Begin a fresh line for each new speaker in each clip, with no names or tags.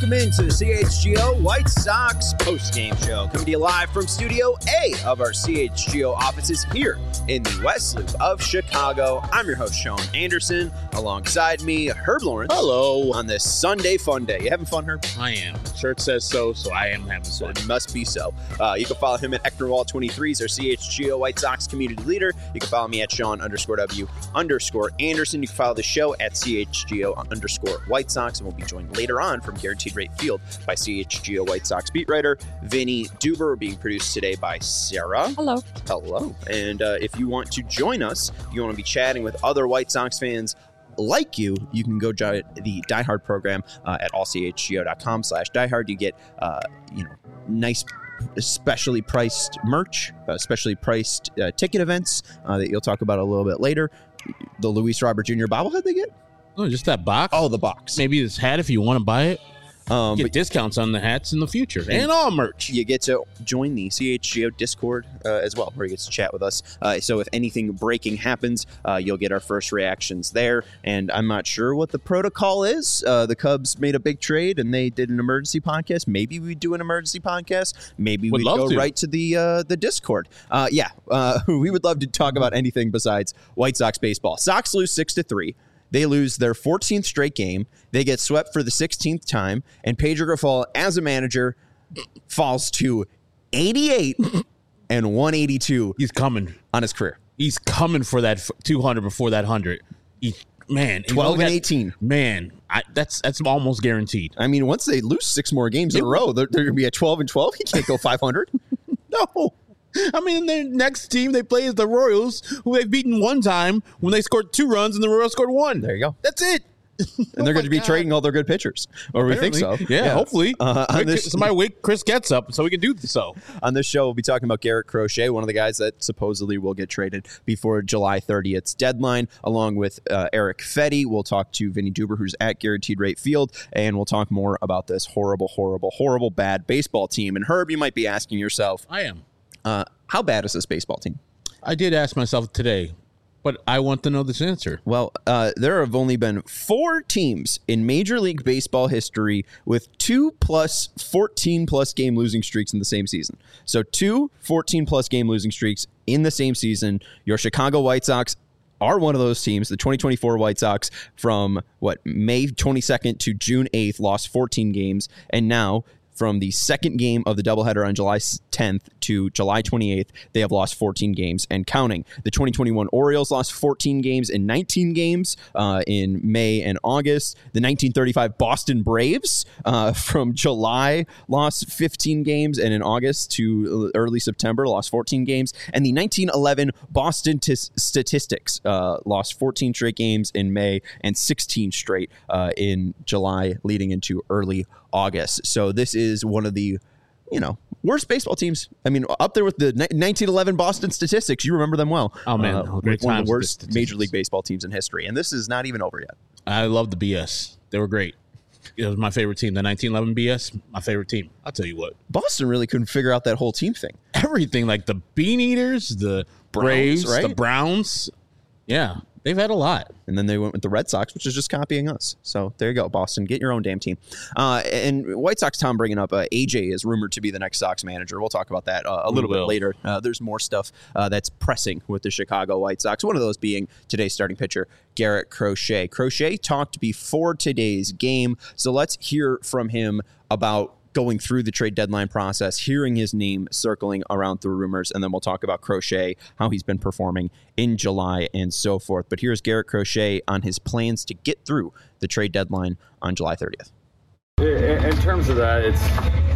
Welcome into the CHGO White Sox post-game show, coming to you live from Studio A of our CHGO offices here in the West Loop of Chicago. I'm your host, Sean Anderson. Alongside me, Herb Lawrence.
Hello.
On this Sunday fun day. You having fun, Herb?
I am. Shirt says so I am having fun.
It must be so. You can follow him at Eknerwall23. He's our CHGO White Sox community leader. You can follow me at Sean_W_Anderson. You can follow the show at CHGO_White Sox, and we'll be joined later on from Guaranteed Rate Field by CHGO White Sox beat writer Vinny Duber, being produced today by Sarah.
Hello.
Hello. And if you want to join us, you want to be chatting with other White Sox fans like you can go join the Die Hard program at allchgo.com/diehard. You get, nice specially priced merch, specially priced ticket events that you'll talk about a little bit later. The Luis Robert Jr. bobblehead they get?
Oh, just that box?
Oh, the box.
Maybe this hat if you want to buy it. Get discounts on the hats in the future and all merch.
You get to join the CHGO Discord as well, where you get to chat with us. So if anything breaking happens, you'll get our first reactions there. And I'm not sure what the protocol is. The Cubs made a big trade and they did an emergency podcast. Maybe we'd do an emergency podcast. Maybe we'd go right to the Discord. We would love to talk about anything besides White Sox baseball. Sox lose 6-3. They lose their 14th straight game. They get swept for the 16th time. And Pedro Grifol, as a manager, falls to 88 and 182.
He's coming
on his career.
He's coming for that 200 before that 100.
12 and 18.
Man, that's almost guaranteed.
I mean, once they lose 6 more games in a row, they're going to be at 12 and 12. He can't go 500.
No. I mean, their next team they play is the Royals, who they've beaten one time when they scored 2 runs and the Royals scored 1.
There you go.
That's it.
And they're going to be trading all their good pitchers. Or we think so.
Yeah. Hopefully. Somebody wake Chris Getz up so we can do so.
On this show, we'll be talking about Garrett Crochet, one of the guys that supposedly will get traded before July 30th's deadline, along with Eric Fetty. We'll talk to Vinny Duber, who's at Guaranteed Rate Field, and we'll talk more about this horrible, bad baseball team. And Herb, you might be asking yourself.
I am.
How bad is this baseball team?
I did ask myself today, but I want to know this answer.
Well, there have only been 4 teams in Major League Baseball history with 2+ 14+ game losing streaks in the same season. So 2 14+ game losing streaks in the same season. Your Chicago White Sox are one of those teams. The 2024 White Sox from May 22nd to June 8th lost 14 games, and now from the second game of the doubleheader on July 10th to July 28th, they have lost 14 games and counting. The 2021 Orioles lost 14 games in 19 games in May and August. The 1935 Boston Braves from July lost 15 games, and in August to early September lost 14 games. And the 1911 Boston Statistics lost 14 straight games in May and 16 straight in July, leading into early August. So this is one of the, worst baseball teams. I mean, up there with the 1911 Boston Statistics. You remember them well.
Oh, man.
One of the worst Major League Baseball teams in history. And this is not even over yet.
I love the BS. They were great. It was my favorite team. The 1911 BS, my favorite team. I'll tell you what.
Boston really couldn't figure out that whole team thing.
Everything, like the Bean Eaters, the Braves, right? The Browns. Yeah. They've had a lot.
And then they went with the Red Sox, which is just copying us. So there you go, Boston. Get your own damn team. And White Sox, Tom bringing up, AJ is rumored to be the next Sox manager. We'll talk about that a little bit later. There's more stuff that's pressing with the Chicago White Sox. One of those being today's starting pitcher, Garrett Crochet. Crochet talked before today's game. So let's hear from him about going through the trade deadline process, hearing his name circling around through rumors, and then we'll talk about Crochet, how he's been performing in July and so forth. But here's Garrett Crochet on his plans to get through the trade deadline on July 30th.
In terms of that, it's,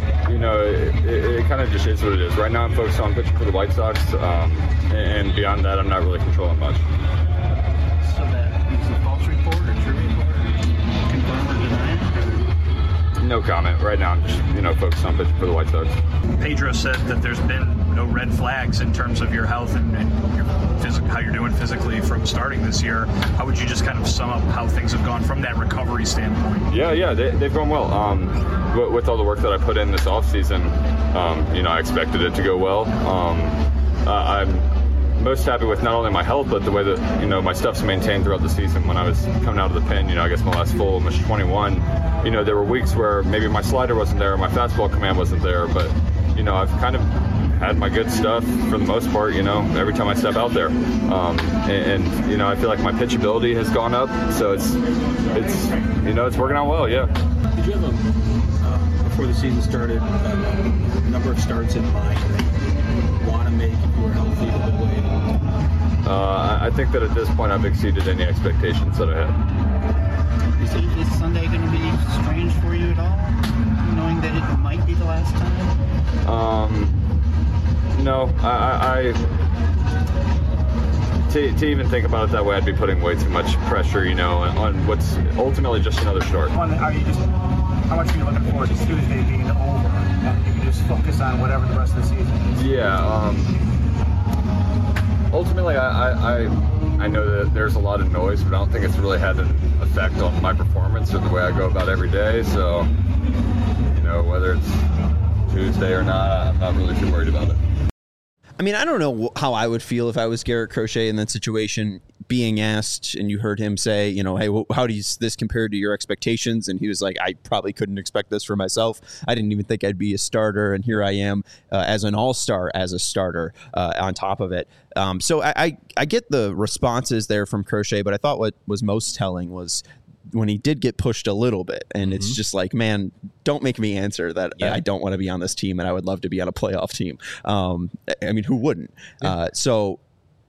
it kind of just is what it is. Right now I'm focused on pitching for the White Sox, and beyond that I'm not really controlling much.
So that is a false report or true report? Confirm or deny it?
No comment. Right now I'm just, focused on pitching for the White Sox.
Pedro said that there's been no red flags in terms of your health and your how you're doing physically from starting this year. How would you just kind of sum up how things have gone from that recovery standpoint?
Yeah, they've gone well. With all the work that I put in this offseason, I expected it to go well. I'm most happy with not only my health, but the way that, my stuff's maintained throughout the season. When I was coming out of the pen, I guess my last full, almost 21, there were weeks where maybe my slider wasn't there, my fastball command wasn't there, but, I've kind of had my good stuff for the most part, every time I step out there. And I feel like my pitchability has gone up, so it's working out well, yeah.
Did you have before the season started, a number of starts in mind that you want to make if you were healthy the whole way?
I think that at this point I've exceeded any expectations that I had.
Is Sunday going to be strange for you at all, knowing that it might be the last time?
No, to even think about it that way, I'd be putting way too much pressure, on what's ultimately just another start.
How much are you looking forward to Tuesday being over, and you can just focus on whatever the rest of the season is?
Yeah. Ultimately, I know that there's a lot of noise, but I don't think it's really had an effect on my performance or the way I go about every day. So, whether it's Tuesday or not, I'm not really too worried about it.
I mean, I don't know how I would feel if I was Garrett Crochet in that situation, being asked, and you heard him say, hey, how does this compare to your expectations? And he was like, I probably couldn't expect this for myself. I didn't even think I'd be a starter, and here I am as an all-star, as a starter on top of it. So I get the responses there from Crochet, but I thought what was most telling was when he did get pushed a little bit, and it's just like, man, don't make me answer that. I don't want to be on this team, and I would love to be on a playoff team. I mean, who wouldn't? So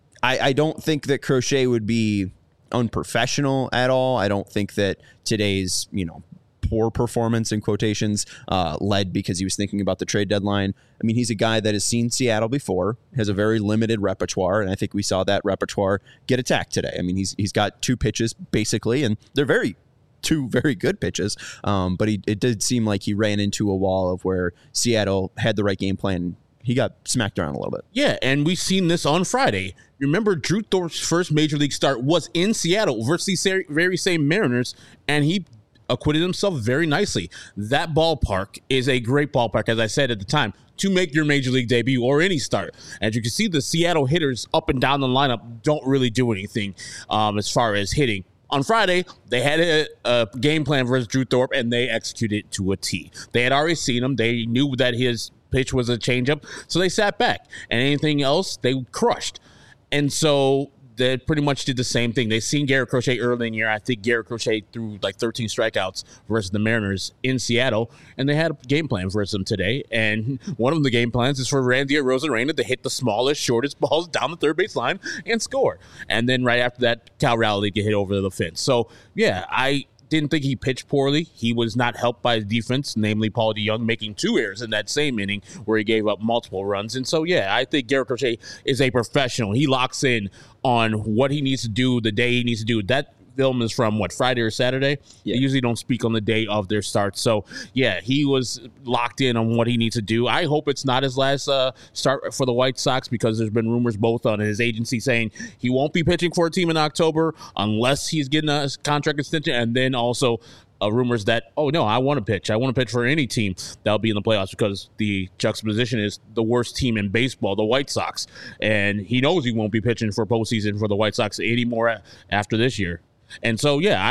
I don't think that Crochet would be unprofessional at all. I don't think that today's, poor performance in quotations led because he was thinking about the trade deadline. I mean, he's a guy that has seen Seattle before, has a very limited repertoire, and I think we saw that repertoire get attacked today. I mean, he's got two pitches basically, and they're two very good pitches, but it did seem like he ran into a wall of where Seattle had the right game plan. He got smacked around a little bit.
Yeah, and we've seen this on Friday. Remember, Drew Thorpe's first major league start was in Seattle versus these very same Mariners, and he acquitted himself very nicely. That ballpark is a great ballpark, as I said at the time, to make your major league debut or any start. As you can see, the Seattle hitters up and down the lineup don't really do anything as far as hitting. On Friday, they had a game plan versus Drew Thorpe, and they executed it to a T. They had already seen him. They knew that his pitch was a changeup, so they sat back. And anything else, they crushed. And so they pretty much did the same thing. They seen Garrett Crochet early in the year. I think Garrett Crochet threw like 13 strikeouts versus the Mariners in Seattle, and they had a game plan versus them today. And one of the game plans is for Randy Arozarena to hit the smallest, shortest balls down the third base line and score. And then right after that, Cal Raleigh get hit over the fence. So, yeah, I didn't think he pitched poorly. He was not helped by his defense, namely Paul DeJong making 2 errors in that same inning where he gave up multiple runs. And so, yeah, I think Garrett Crochet is a professional. He locks in on what he needs to do the day he needs to do. That film is from, Friday or Saturday? Yeah. They usually don't speak on the day of their start. So, yeah, he was locked in on what he needs to do. I hope it's not his last start for the White Sox, because there's been rumors both on his agency saying he won't be pitching for a team in October unless he's getting a contract extension, and then also rumors that, oh, no, I want to pitch. I want to pitch for any team that'll be in the playoffs, because the juxtaposition is the worst team in baseball, the White Sox. And he knows he won't be pitching for postseason for the White Sox anymore after this year. And so, yeah,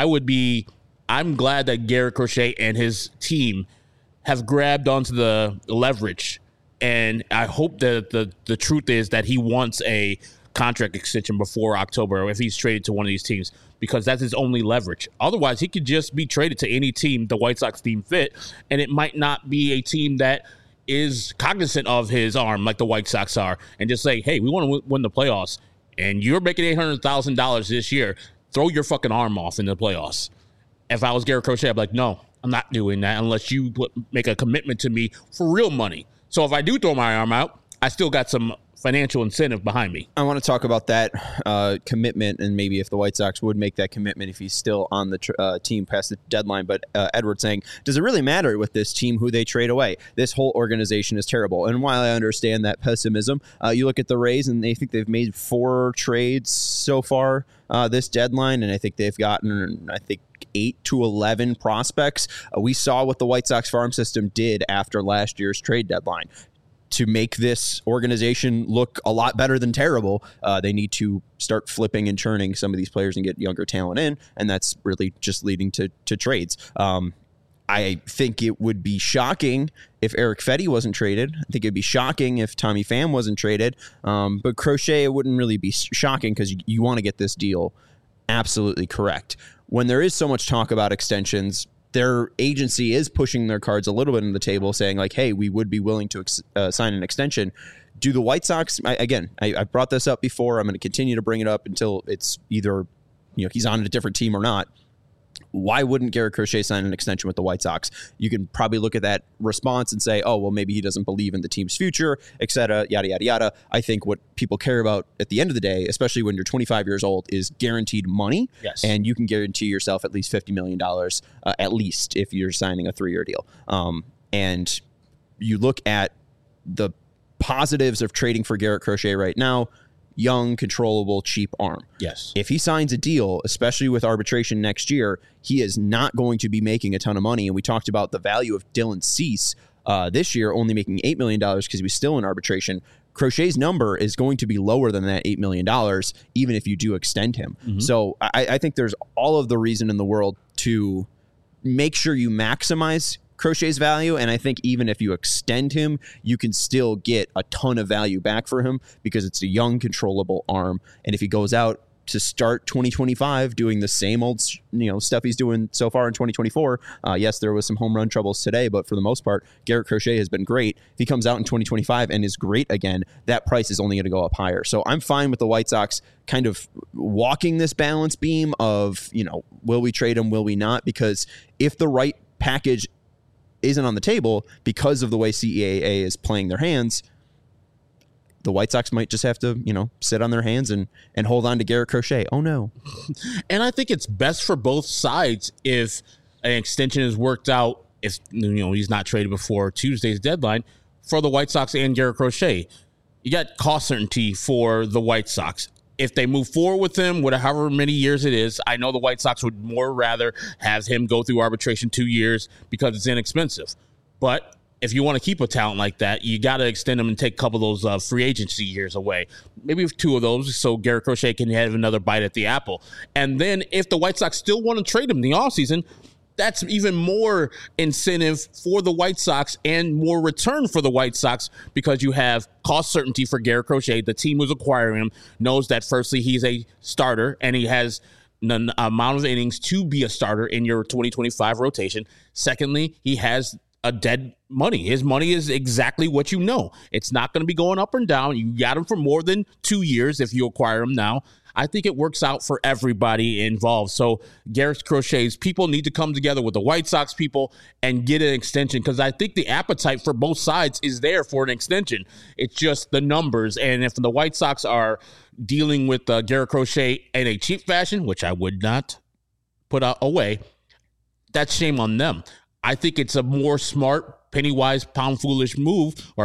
I'm glad that Garrett Crochet and his team have grabbed onto the leverage. And I hope that the truth is that he wants a contract extension before October if he's traded to one of these teams, because that's his only leverage. Otherwise, he could just be traded to any team the White Sox team fit, and it might not be a team that is cognizant of his arm like the White Sox are, and just say, hey, we want to win the playoffs, and you're making $800,000 this year. Throw your fucking arm off in the playoffs. If I was Garrett Crochet, I'd be like, no, I'm not doing that unless you make a commitment to me for real money. So if I do throw my arm out, I still got some financial incentive behind me.
I want to talk about that commitment, and maybe if the White Sox would make that commitment if he's still on the team past the deadline. But Edward saying, does it really matter with this team who they trade away? This whole organization is terrible. And while I understand that pessimism, you look at the Rays, and they think they've made 4 trades so far this deadline, and I think they've gotten, 8 to 11 prospects. We saw what the White Sox farm system did after last year's trade deadline. to make this organization look a lot better than terrible, they need to start flipping and churning some of these players and get younger talent in, and that's really just leading to trades. I think it would be shocking if Eric Fetty wasn't traded. I think it'd be shocking if Tommy Pham wasn't traded. But Crochet, it wouldn't really be shocking because you want to get this deal absolutely correct. When there is so much talk about extensions, their agency is pushing their cards a little bit on the table, saying like, hey, we would be willing to sign an extension. Do the White Sox, I brought this up before. I'm going to continue to bring it up until it's either he's on a different team or not. Why wouldn't Garrett Crochet sign an extension with the White Sox? You can probably look at that response and say, oh, well, maybe he doesn't believe in the team's future, et cetera, yada, yada, yada. I think what people care about at the end of the day, especially when you're 25 years old, is guaranteed money.
Yes.
And you can guarantee yourself at least $50 million, at least if you're signing a 3-year deal. And you look at the positives of trading for Garrett Crochet right now. Young, controllable, cheap arm.
Yes.
If he signs a deal, especially with arbitration next year, he is not going to be making a ton of money. And we talked about the value of Dylan Cease this year only making $8 million because he was still in arbitration. Crochet's number is going to be lower than that $8 million, even if you do extend him. Mm-hmm. So I think there's all of the reason in the world to make sure you maximize Crochet's value, and I think even if you extend him, you can still get a ton of value back for him because it's a young, controllable arm. And if he goes out to start 2025 doing the same old stuff he's doing so far in 2024, yes, there was some home run troubles today, but for the most part, Garrett Crochet has been great. If he comes out in 2025 and is great again, that price is only going to go up higher. So I'm fine with the White Sox kind of walking this balance beam of, will we trade him, will we not? Because if the right package isn't on the table because of the way CEAA is playing their hands, the White Sox might just have to, sit on their hands and hold on to Garrett Crochet. Oh, no.
And I think it's best for both sides if an extension is worked out, if he's not traded before Tuesday's deadline, for the White Sox and Garrett Crochet. You got cost certainty for the White Sox. If they move forward with him, however many years it is, I know the White Sox would more rather have him go through arbitration 2 years because it's inexpensive. But if you want to keep a talent like that, you got to extend him and take a couple of those free agency years away. Maybe 2 of those so Garrett Crochet can have another bite at the apple. And then if the White Sox still want to trade him in the offseason, that's even more incentive for the White Sox and more return for the White Sox because you have cost certainty for Garrett Crochet. The team who's acquiring him knows that, firstly, he's a starter and he has the amount of innings to be a starter in your 2025 rotation. Secondly, he has a dead money. His money is exactly what you know. It's not going to be going up and down. You got him for more than 2 years if you acquire him now. I think it works out for everybody involved. So Garrett Crochet's people need to come together with the White Sox people and get an extension because I think the appetite for both sides is there for an extension. It's just the numbers. And if the White Sox are dealing with Garrett Crochet in a cheap fashion, which I would not put away, that's shame on them. I think it's a more smart, penny-wise, pound-foolish move or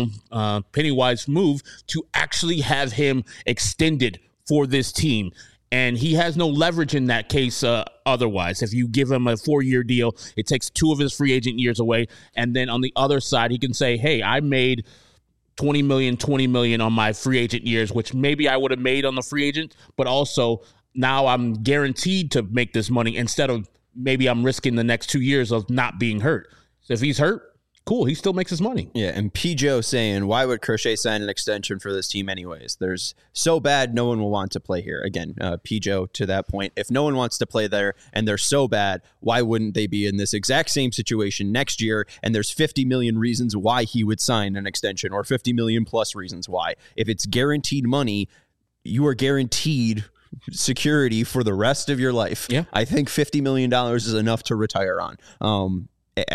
penny-wise move to actually have him extended for this team. And he has no leverage in that case otherwise. If you give him a 4-year deal, it takes 2 of his free agent years away. And then on the other side, he can say, hey, I made $20 million on my free agent years, which maybe I would have made on the free agent, but also now I'm guaranteed to make this money instead of maybe I'm risking the next 2 years of not being hurt. So if he's hurt, cool, he still makes his money.
Yeah, and P. Joe saying, why would Crochet sign an extension for this team anyways? There's so bad, no one will want to play here. Again, P. Joe to that point, if no one wants to play there and they're so bad, why wouldn't they be in this exact same situation next year? And there's 50 million reasons why he would sign an extension or 50 million plus reasons why. If it's guaranteed money, you are guaranteed security for the rest of your life.
Yeah.
I think $50 million is enough to retire on.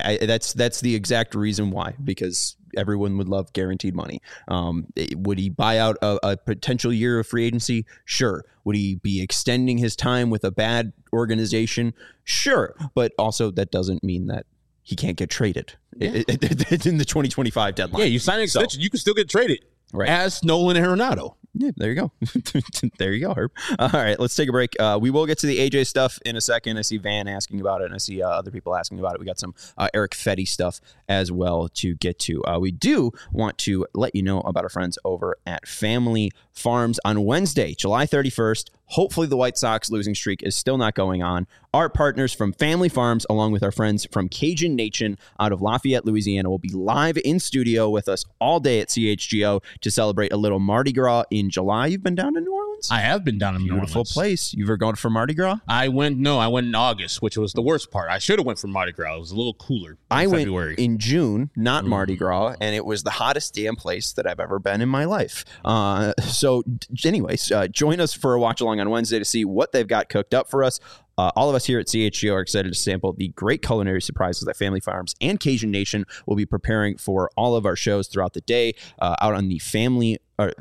That's the exact reason why, because everyone would love guaranteed money. Would he buy out a potential year of free agency? Sure. Would he be extending his time with a bad organization? Sure. But also that doesn't mean that he can't get traded in the 2025 deadline.
Yeah, you sign an extension, you can still get traded.
Right.
As Nolan Arenado.
Yeah, there you go. There you go, Herb. All right, let's take a break. We will get to the AJ stuff in a second. I see Van asking about it, and I see other people asking about it. We got some Eric Fetty stuff as well to get to. We do want to let you know about our friends over at Family Farms on Wednesday, July 31st. Hopefully the White Sox losing streak is still not going on. Our partners from Family Farms, along with our friends from Cajun Nation out of Lafayette, Louisiana, will be live in studio with us all day at CHGO to celebrate a little Mardi Gras in July. You've been down to New Orleans?
I have been down in New Orleans.
Beautiful place. You ever gone for Mardi Gras?
I went in August, which was the worst part. I should have went for Mardi Gras. It was a little cooler in February.
Went in June, not Mardi Gras, and it was the hottest damn place that I've ever been in my life. So anyways, join us for a watch along on Wednesday to see what they've got cooked up for us. All of us here at CHGO are excited to sample the great culinary surprises that Family Farms and Cajun Nation will be preparing for all of our shows throughout the day out on the Family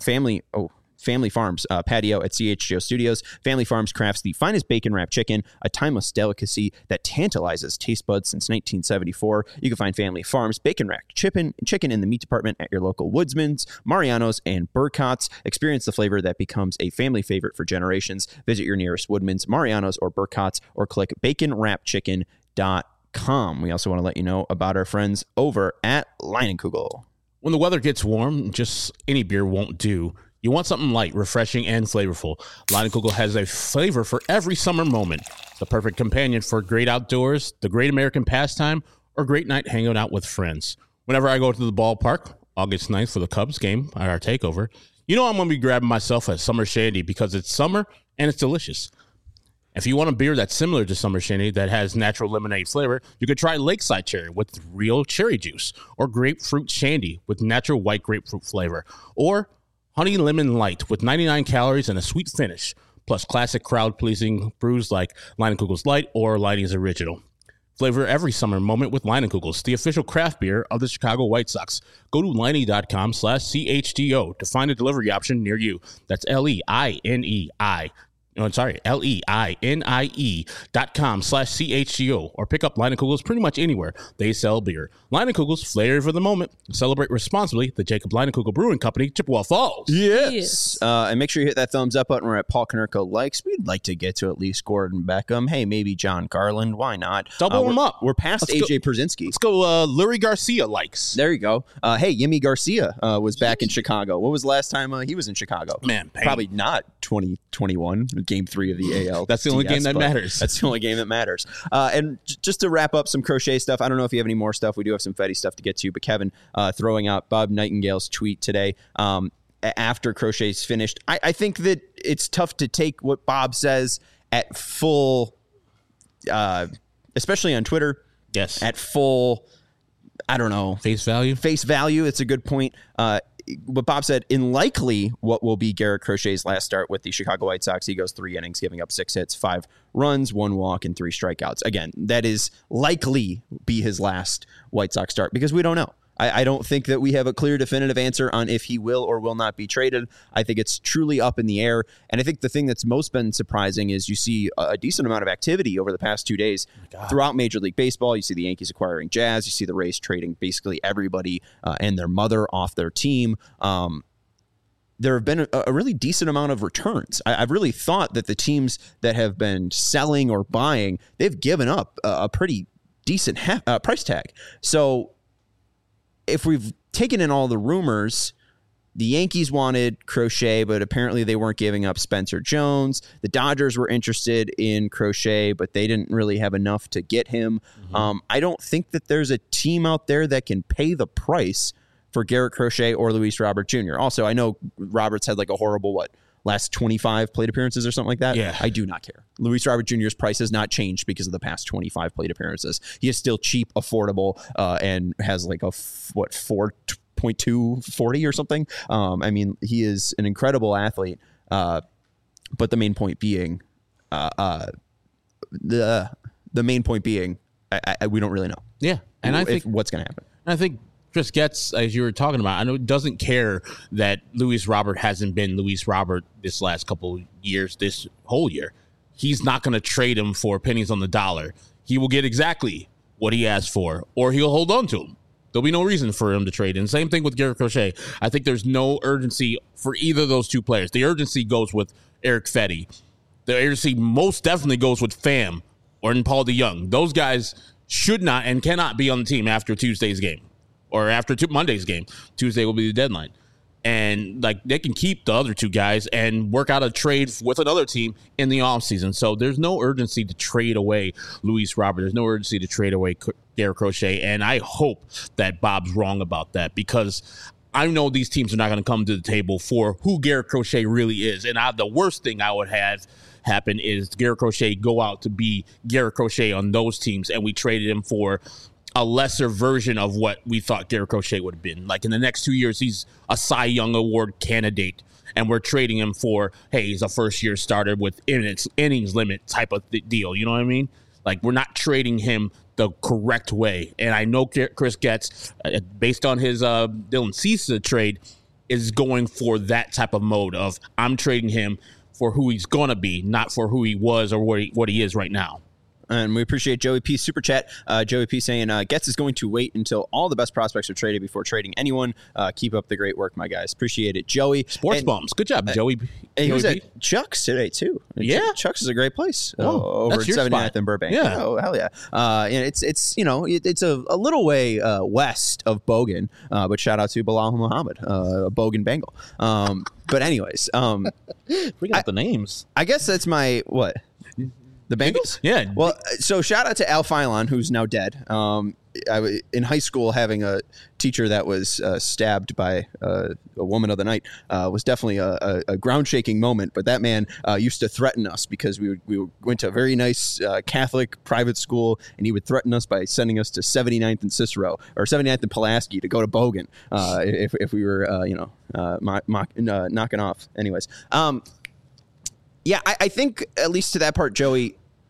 Farms patio at CHGO Studios. Family Farms crafts the finest bacon wrapped chicken, a timeless delicacy that tantalizes taste buds since 1974. You can find Family Farms bacon wrapped chicken in the meat department at your local Woodsman's, Mariano's, and Burcott's. Experience the flavor that becomes a family favorite for generations. Visit your nearest Woodman's, Mariano's, or Burcott's, or click baconwrappedchicken.com. We also want to let you know about our friends over at Leinenkugel.
When the weather gets warm, just any beer won't do. You want something light, refreshing, and flavorful. Leinenkugel has a flavor for every summer moment. The perfect companion for great outdoors, the great American pastime, or great night hanging out with friends. Whenever I go to the ballpark, August 9th for the Cubs game, our takeover, you know I'm going to be grabbing myself a Summer Shandy because it's summer and it's delicious. If you want a beer that's similar to Summer Shandy that has natural lemonade flavor, you could try Lakeside Cherry with real cherry juice, or Grapefruit Shandy with natural white grapefruit flavor, or Honey Lemon Light with 99 calories and a sweet finish, plus classic crowd-pleasing brews like Leinenkugel's Light or Leinie's Original. Flavor every summer moment with Leinenkugel's, the official craft beer of the Chicago White Sox. Go to Leinie.com/CHGO to find a delivery option near you. That's LEINIE.com/CHGO, or pick up Leinenkugel's pretty much anywhere they sell beer. Leinenkugel's, flavor for the moment. Celebrate responsibly. The Jacob Leinenkugel Brewing Company, Chippewa Falls.
Yes. And make sure you hit that thumbs up button. We're at Paul Konerko Likes. We'd like to get to at least Gordon Beckham. Hey, maybe John Garland. Why not?
Double them up.
We're past AJ Pierzynski.
Let's go Lurie Garcia Likes.
There you go. Hey, Yimi Garcia was back in Chicago. What was the last time he was in Chicago?
Man, pain.
Probably not 2021. Game 3 of the AL.
That's the only game that matters.
That's the only game that matters. And just to wrap up some crochet stuff, I don't know if you have any more stuff. We do have some Fetty stuff to get to, but Kevin throwing out Bob Nightingale's tweet today after crochet's finished. I think that it's tough to take what Bob says at full, especially on Twitter.
Yes.
At full, I don't know.
Face value?
Face value. It's a good point. What Bob said, in likely what will be Garrett Crochet's last start with the Chicago White Sox, he goes 3 innings, giving up 6 hits, 5 runs, 1 walk, and 3 strikeouts. Again, that is likely be his last White Sox start because we don't know. I don't think that we have a clear, definitive answer on if he will or will not be traded. I think it's truly up in the air. And I think the thing that's most been surprising is you see a decent amount of activity over the past 2 days throughout Major League Baseball. You see the Yankees acquiring Jazz. You see the Rays trading basically everybody and their mother off their team. There have been a really decent amount of returns. I've really thought that the teams that have been selling or buying, they've given up a pretty decent price tag. So if we've taken in all the rumors, the Yankees wanted Crochet, but apparently they weren't giving up Spencer Jones. The Dodgers were interested in Crochet, but they didn't really have enough to get him. Mm-hmm. I don't think that there's a team out there that can pay the price for Garrett Crochet or Luis Robert Jr. Also, I know Roberts had like a horrible, last 25 plate appearances or something like that.
Yeah.
I do not care. Luis Robert Jr.'s price has not changed because of the past 25 plate appearances. He is still cheap, affordable, and has like a 4.240 or something. I mean, he is an incredible athlete. But the main point being, the main point being, we don't really know.
Yeah, and I think
what's going to happen.
I think Chris Getz, as you were talking about, I know doesn't care that Luis Robert hasn't been Luis Robert this last couple years, this whole year. He's not going to trade him for pennies on the dollar. He will get exactly what he asked for, or he'll hold on to him. There'll be no reason for him to trade. And same thing with Garrett Crochet. I think there's no urgency for either of those two players. The urgency goes with Eric Fetty. The urgency most definitely goes with Pham or Paul DeJong. Those guys should not and cannot be on the team after Tuesday's game or after Monday's game. Tuesday will be the deadline. And like they can keep the other two guys and work out a trade with another team in the offseason. So there's no urgency to trade away Luis Robert. There's no urgency to trade away Garrett Crochet. And I hope that Bob's wrong about that, because I know these teams are not going to come to the table for who Garrett Crochet really is. And the worst thing I would have happen is Garrett Crochet go out to be Garrett Crochet on those teams, and we traded him for a lesser version of what we thought Garrett Crochet would have been. Like in the next 2 years, he's a Cy Young Award candidate, and we're trading him for, hey, he's a first-year starter with innings limit type of deal. You know what I mean? Like, we're not trading him the correct way. And I know Chris Getz, based on his Dylan Cease trade, is going for that type of mode of I'm trading him for who he's going to be, not for who he was or what he is right now.
And we appreciate Joey P. Super Chat. Joey P. saying, Getz is going to wait until all the best prospects are traded before trading anyone. Keep up the great work, my guys. Appreciate it, Joey.
Sports Bums. Good job, Joey.
He was at Chuck's today, too.
Yeah.
Chuck's is a great place over at 79th and Burbank.
Yeah.
Oh, hell yeah. And it's a little way west of Bogan, but shout out to Bilal Muhammad, a Bogan Bengal. But anyways.
We got the names.
I guess that's my, what? The Bengals?
Yeah.
Well, so shout out to Al Philon, who's now dead. In high school, having a teacher that was stabbed by a woman of the night was definitely a ground-shaking moment. But that man used to threaten us because we went to a very nice Catholic private school, and he would threaten us by sending us to 79th and Cicero, or 79th and Pulaski to go to Bogan if we were, knocking off. Anyways. Yeah, I think, at least to that part, Joey,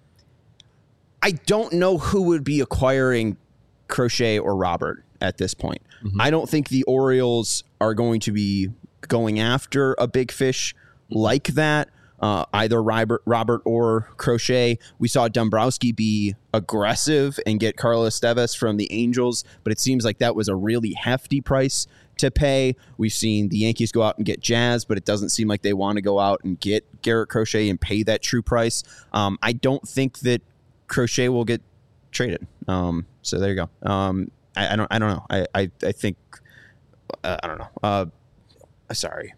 I don't know who would be acquiring Crochet or Robert at this point. Mm-hmm. I don't think the Orioles are going to be going after a big fish like that, either Robert or Crochet. We saw Dombrowski be aggressive and get Carlos Tevez from the Angels, but it seems like that was a really hefty price to pay. We've seen the Yankees go out and get Jazz, but it doesn't seem like they want to go out and get Garrett Crochet and pay that true price. I don't think that Crochet will get traded. So there you go. I don't know. I think I don't know. Sorry.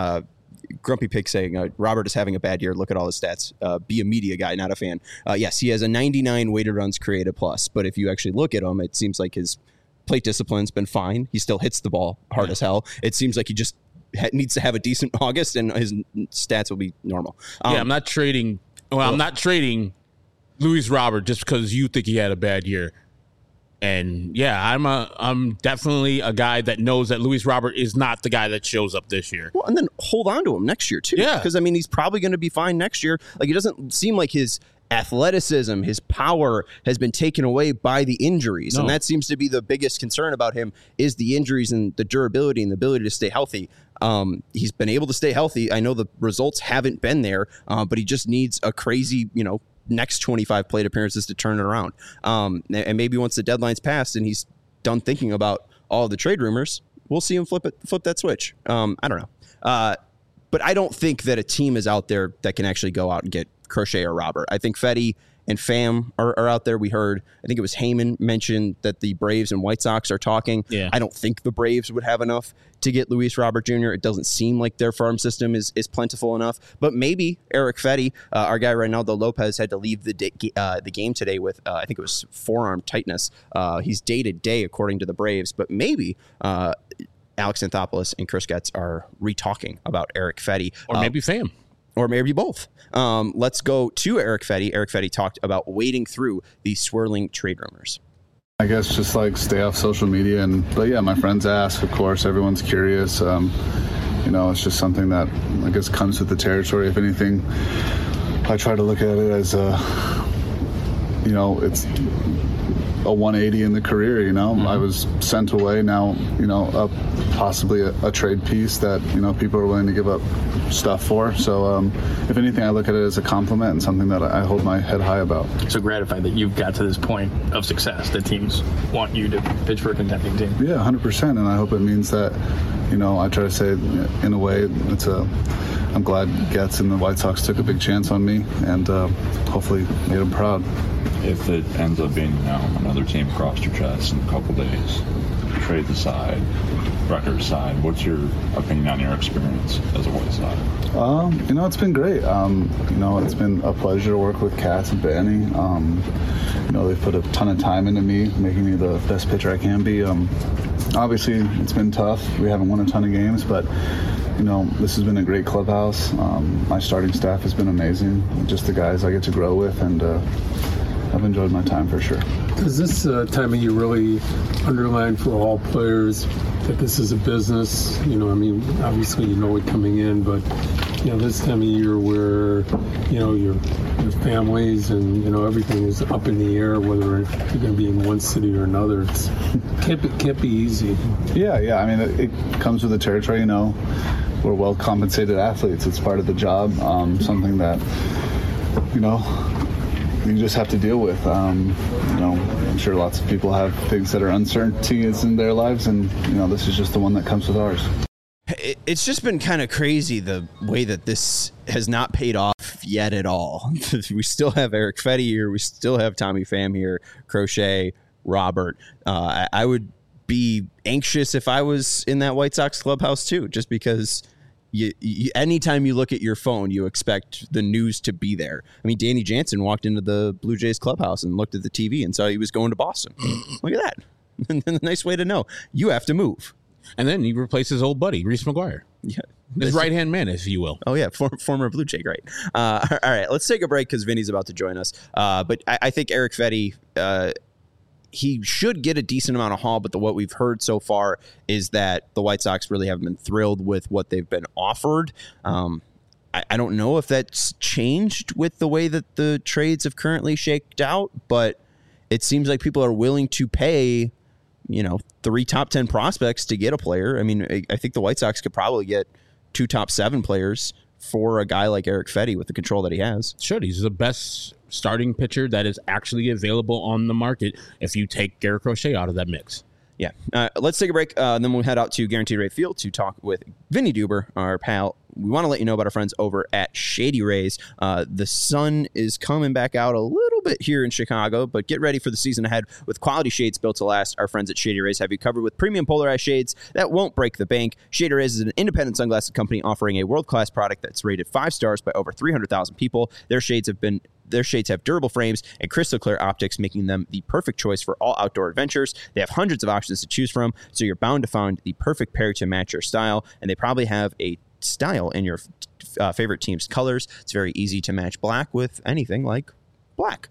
Grumpy Pig saying Robert is having a bad year. Look at all his stats. Be a media guy, not a fan. Yes, he has a 99 weighted runs created plus, but if you actually look at him, it seems like his plate discipline's been fine. He still hits the ball hard as hell. It seems like he just needs to have a decent August, and his stats will be normal.
I'm not trading. I'm not trading Luis Robert just because you think he had a bad year. And yeah, I'm definitely a guy that knows that Luis Robert is not the guy that shows up this year.
Well, and then hold on to him next year too.
Yeah,
because I mean, he's probably going to be fine next year. Like, it doesn't seem like his athleticism, his power has been taken away by the injuries. No. And that seems to be the biggest concern about him, is the injuries and the durability and the ability to stay healthy. He's been able to stay healthy. I know the results haven't been there, but he just needs a crazy, next 25 plate appearances to turn it around. And maybe once the deadline's passed and he's done thinking about all the trade rumors, we'll see him flip that switch. I don't know. But I don't think that a team is out there that can actually go out and get Crochet or Robert. I think Fetty and Pham are out there. We heard, I think it was Heyman mentioned that the Braves and White Sox are talking.
Yeah.
I don't think the Braves would have enough to get Luis Robert Jr. It doesn't seem like their farm system is plentiful enough. But maybe Eric Fetty, our guy Reynaldo Lopez, had to leave the game today with, I think it was forearm tightness. He's day-to-day according to the Braves. But maybe Alex Anthopoulos and Chris Getz are re-talking about Eric Fetty.
Or maybe Pham.
Or maybe both. Let's go to Eric Fetty. Eric Fetty talked about wading through these swirling trade rumors.
I guess just like stay off social media. But yeah, my friends ask, of course, everyone's curious. It's just something that I guess comes with the territory. If anything, I try to look at it as it's a 180 in the career. I was sent away. Now, possibly a trade piece that people are willing to give up stuff for. So if anything, I look at it as a compliment and something that I hold my head high about.
So gratified that you've got to this point of success that teams want you to pitch for a contending team.
Yeah, 100%, and I hope it means that I try to say in a way I'm glad Getz and the White Sox took a big chance on me and hopefully made them proud.
If it ends up being another team across your chest in a couple days, trades aside, record aside, what's your opinion on your experience as a White Sox?
It's been great. It's been a pleasure to work with Katz and Benny. They've put a ton of time into me, making me the best pitcher I can be. Obviously, it's been tough. We haven't won a ton of games, but this has been a great clubhouse. My starting staff has been amazing. Just the guys I get to grow with, and I've enjoyed my time for sure.
Does this time of year really underline for all players that this is a business? Obviously it coming in, but this time of year where your families and everything is up in the air, whether you're going to be in one city or another, it can't be easy.
Yeah. It comes with the territory. We're well compensated athletes. It's part of the job. Something that you just have to deal with. I'm sure lots of people have things that are uncertainties in their lives, and this is just the one that comes with ours.
It's just been kind of crazy the way that this has not paid off yet at all. We still have Erick Fedde here. We still have Tommy Pham here, Crochet, Robert. I would be anxious if I was in that White Sox clubhouse too, just because anytime you look at your phone, you expect the news to be there. Danny Jansen walked into the Blue Jays clubhouse and looked at the TV and saw he was going to Boston. Look at that. Nice way to know. You have to move.
And then he replaced his old buddy, Reese McGuire. Yeah. His right-hand man, if you will.
Oh, yeah. Former Blue Jay. Great. All right. Let's take a break because Vinny's about to join us. But I think Erick Fedde, he should get a decent amount of haul, but what we've heard so far is that the White Sox really haven't been thrilled with what they've been offered. I don't know if that's changed with the way that the trades have currently shaked out, but it seems like people are willing to pay 3 top 10 prospects to get a player. I think the White Sox could probably get 2 top 7 players for a guy like Erick Fedde with the control that he has.
Should. He's the best starting pitcher that is actually available on the market if you take Garrett Crochet out of that mix.
Yeah. Let's take a break. Then we'll head out to Guaranteed Rate Field to talk with Vinny Duber, our pal. We want to let you know about our friends over at Shady Rays. The sun is coming back out a little bit here in Chicago, but get ready for the season ahead with quality shades built to last. Our friends at Shady Rays have you covered with premium polarized shades that won't break the bank. Shady Rays is an independent sunglasses company offering a world-class product that's rated 5 stars by over 300,000 people. Their shades have durable frames and crystal clear optics, making them the perfect choice for all outdoor adventures. They have hundreds of options to choose from, so you're bound to find the perfect pair to match your style, and they probably have a style in your favorite team's colors. It's very easy to match black with anything like black.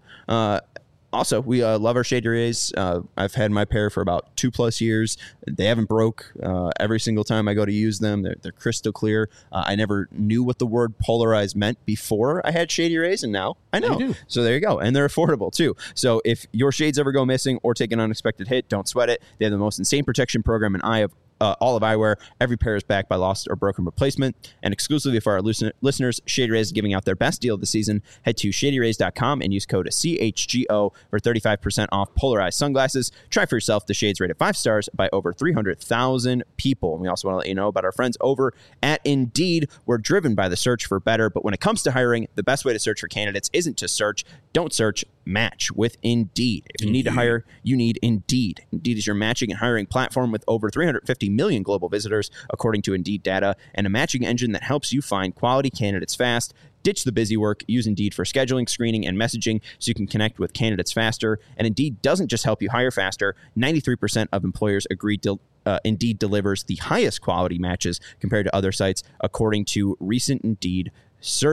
Also, we love our Shady Rays. I've had my pair for about 2+ years. They haven't broke every single time I go to use them. They're crystal clear. I never knew what the word polarized meant before I had Shady Rays, and now I know. So there you go. And they're affordable, too. So if your shades ever go missing or take an unexpected hit, don't sweat it. They have the most insane protection program in all of eyewear. Every pair is backed by lost or broken replacement. And exclusively for our listeners, Shady Rays is giving out their best deal of the season. Head to shadyrays.com and use code CHGO for 35% off polarized sunglasses. Try for yourself. The shades rated 5 stars by over 300,000 people. And we also want to let you know about our friends over at Indeed. We're driven by the search for better, but when it comes to hiring, the best way to search for candidates isn't to search. Don't search. Match with Indeed. If you need to hire, you need Indeed. Indeed is your matching and hiring platform with over 350 million global visitors, according to Indeed data, and a matching engine that helps you find quality candidates fast. Ditch the busy work. Use Indeed for scheduling, screening, and messaging so you can connect with candidates faster. And Indeed doesn't just help you hire faster. 93% of employers agree Indeed delivers the highest quality matches compared to other sites, according to recent Indeed survey.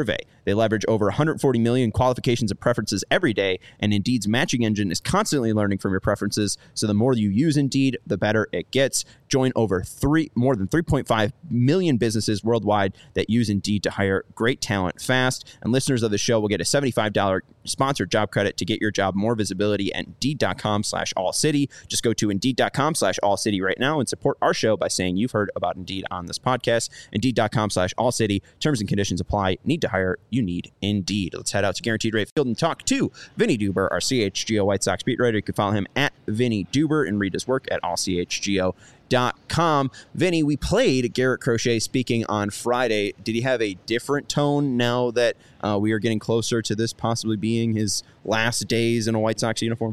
They leverage over 140 million qualifications and preferences every day, and Indeed's matching engine is constantly learning from your preferences, so the more you use Indeed, the better it gets. Join more than 3.5 million businesses worldwide that use Indeed to hire great talent fast, and listeners of the show will get a $75 sponsored job credit to get your job more visibility at Indeed.com/AllCity. Just go to Indeed.com/AllCity right now and support our show by saying you've heard about Indeed on this podcast. Indeed.com/AllCity. Terms and conditions apply. Need to hire? You need Indeed. Let's head out to Guaranteed Rate Field and talk to Vinny Duber, our CHGO White Sox beat writer. You can follow him at Vinny Duber and read his work at allchgo.com. Vinny, we played Garrett Crochet speaking on Friday. Did he have a different tone now that we are getting closer to this possibly being his last days in a White Sox uniform?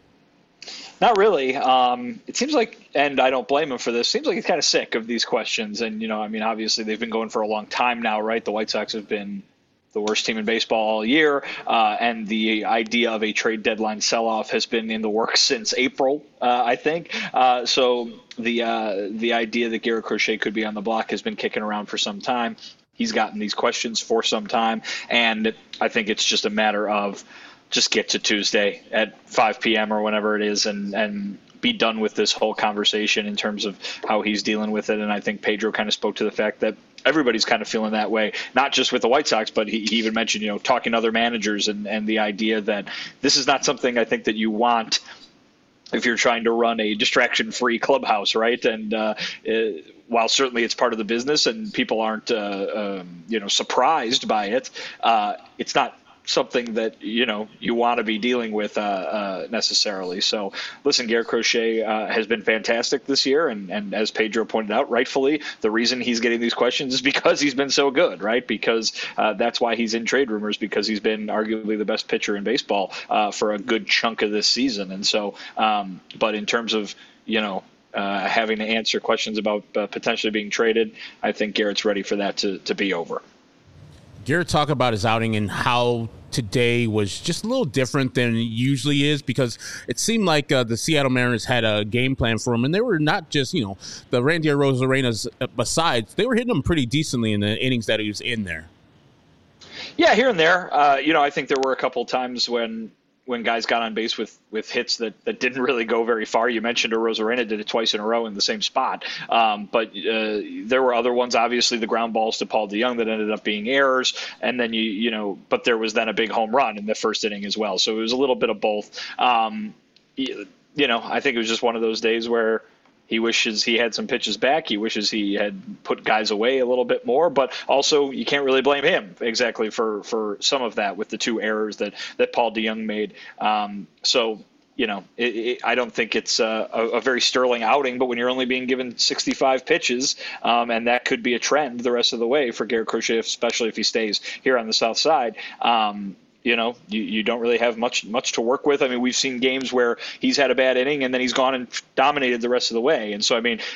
Not really. It seems like, and I don't blame him for this, seems like he's kind of sick of these questions. And, obviously they've been going for a long time now, right? The White Sox have been the worst team in baseball all year. And the idea of a trade deadline sell-off has been in the works since April, I think. So the idea that Garrett Crochet could be on the block has been kicking around for some time. He's gotten these questions for some time. And I think it's just a matter of just get to Tuesday at 5 p.m. or whenever it is and be done with this whole conversation in terms of how he's dealing with it. And I think Pedro kind of spoke to the fact that everybody's kind of feeling that way, not just with the White Sox, but he even mentioned, talking to other managers and the idea that this is not something I think that you want if you're trying to run a distraction-free clubhouse, right? And while certainly it's part of the business and people aren't, surprised by it, it's not something that you want to be dealing with necessarily. So listen, Garrett Crochet has been fantastic this year, and as Pedro pointed out, rightfully, the reason he's getting these questions is because he's been so good, right? Because that's why he's in trade rumors, because he's been arguably the best pitcher in baseball for a good chunk of this season. And so but in terms of having to answer questions about potentially being traded, I think Garrett's ready for that to be over.
Garrett talked about his outing and how today was just a little different than it usually is, because it seemed like the Seattle Mariners had a game plan for him, and they were not just, the Randy Arozarenas besides, they were hitting him pretty decently in the innings that he was in there.
Yeah, here and there. I think there were a couple times when guys got on base with hits that didn't really go very far. You mentioned Arozarena did it twice in a row in the same spot. But there were other ones, obviously the ground balls to Paul DeJong that ended up being errors. And then, but there was then a big home run in the first inning as well. So it was a little bit of both. I think it was just one of those days where he wishes he had some pitches back. He wishes he had put guys away a little bit more, but also you can't really blame him exactly for some of that with the two errors that Paul DeJong made. I don't think it's a very sterling outing, but when you're only being given 65 pitches, and that could be a trend the rest of the way for Garrett Crochet, especially if he stays here on the South Side, you don't really have much to work with. I mean, we've seen games where he's had a bad inning and then he's gone and dominated the rest of the way. And so, I mean,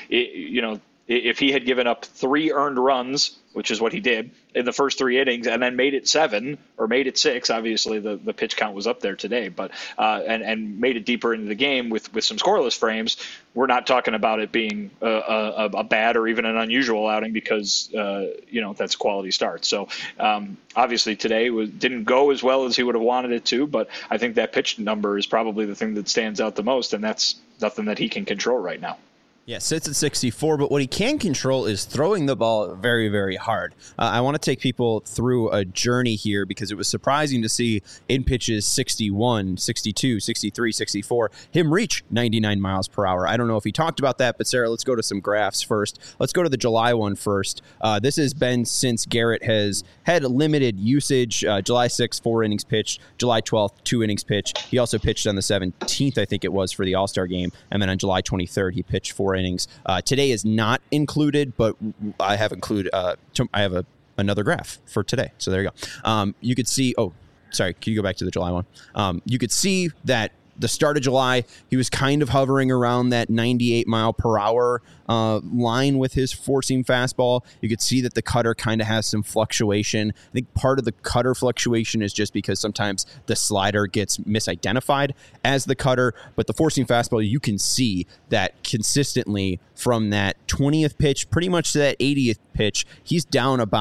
if he had given up 3 earned runs, which is what he did in the first 3 innings, and then made it 7 or made it 6, obviously the pitch count was up there today, but and made it deeper into the game with some scoreless frames, we're not talking about it being a bad or even an unusual outing because that's a quality start. So obviously today didn't go as well as he would have wanted it to, but I think that pitch number is probably the thing that stands out the most, and that's nothing that he can control right now.
Yeah, sits at 64, but what he can control is throwing the ball very, very hard. I want to take people through a journey here because it was surprising to see in pitches 61, 62, 63, 64, him reach 99 miles per hour. I don't know if he talked about that, but Sarah, let's go to some graphs first. Let's go to the July one first. This has been since Garrett has had limited usage. July 6th, 4 innings pitched. July 12th, 2 innings pitched. He also pitched on the 17th, I think it was, for the All-Star game. And then on July 23rd, he pitched 4 innings. Today is not included, but I have included. I have another graph for today. So there you go. You could see. Oh, sorry. Can you go back to the July one? You could see that the start of July, he was kind of hovering around that 98 mile per hour line with his four-seam fastball. You could see that the cutter kind of has some fluctuation. I think part of the cutter fluctuation is just because sometimes the slider gets misidentified as the cutter, but the four-seam fastball, you can see that consistently from that 20th pitch pretty much to that 80th pitch, he's down about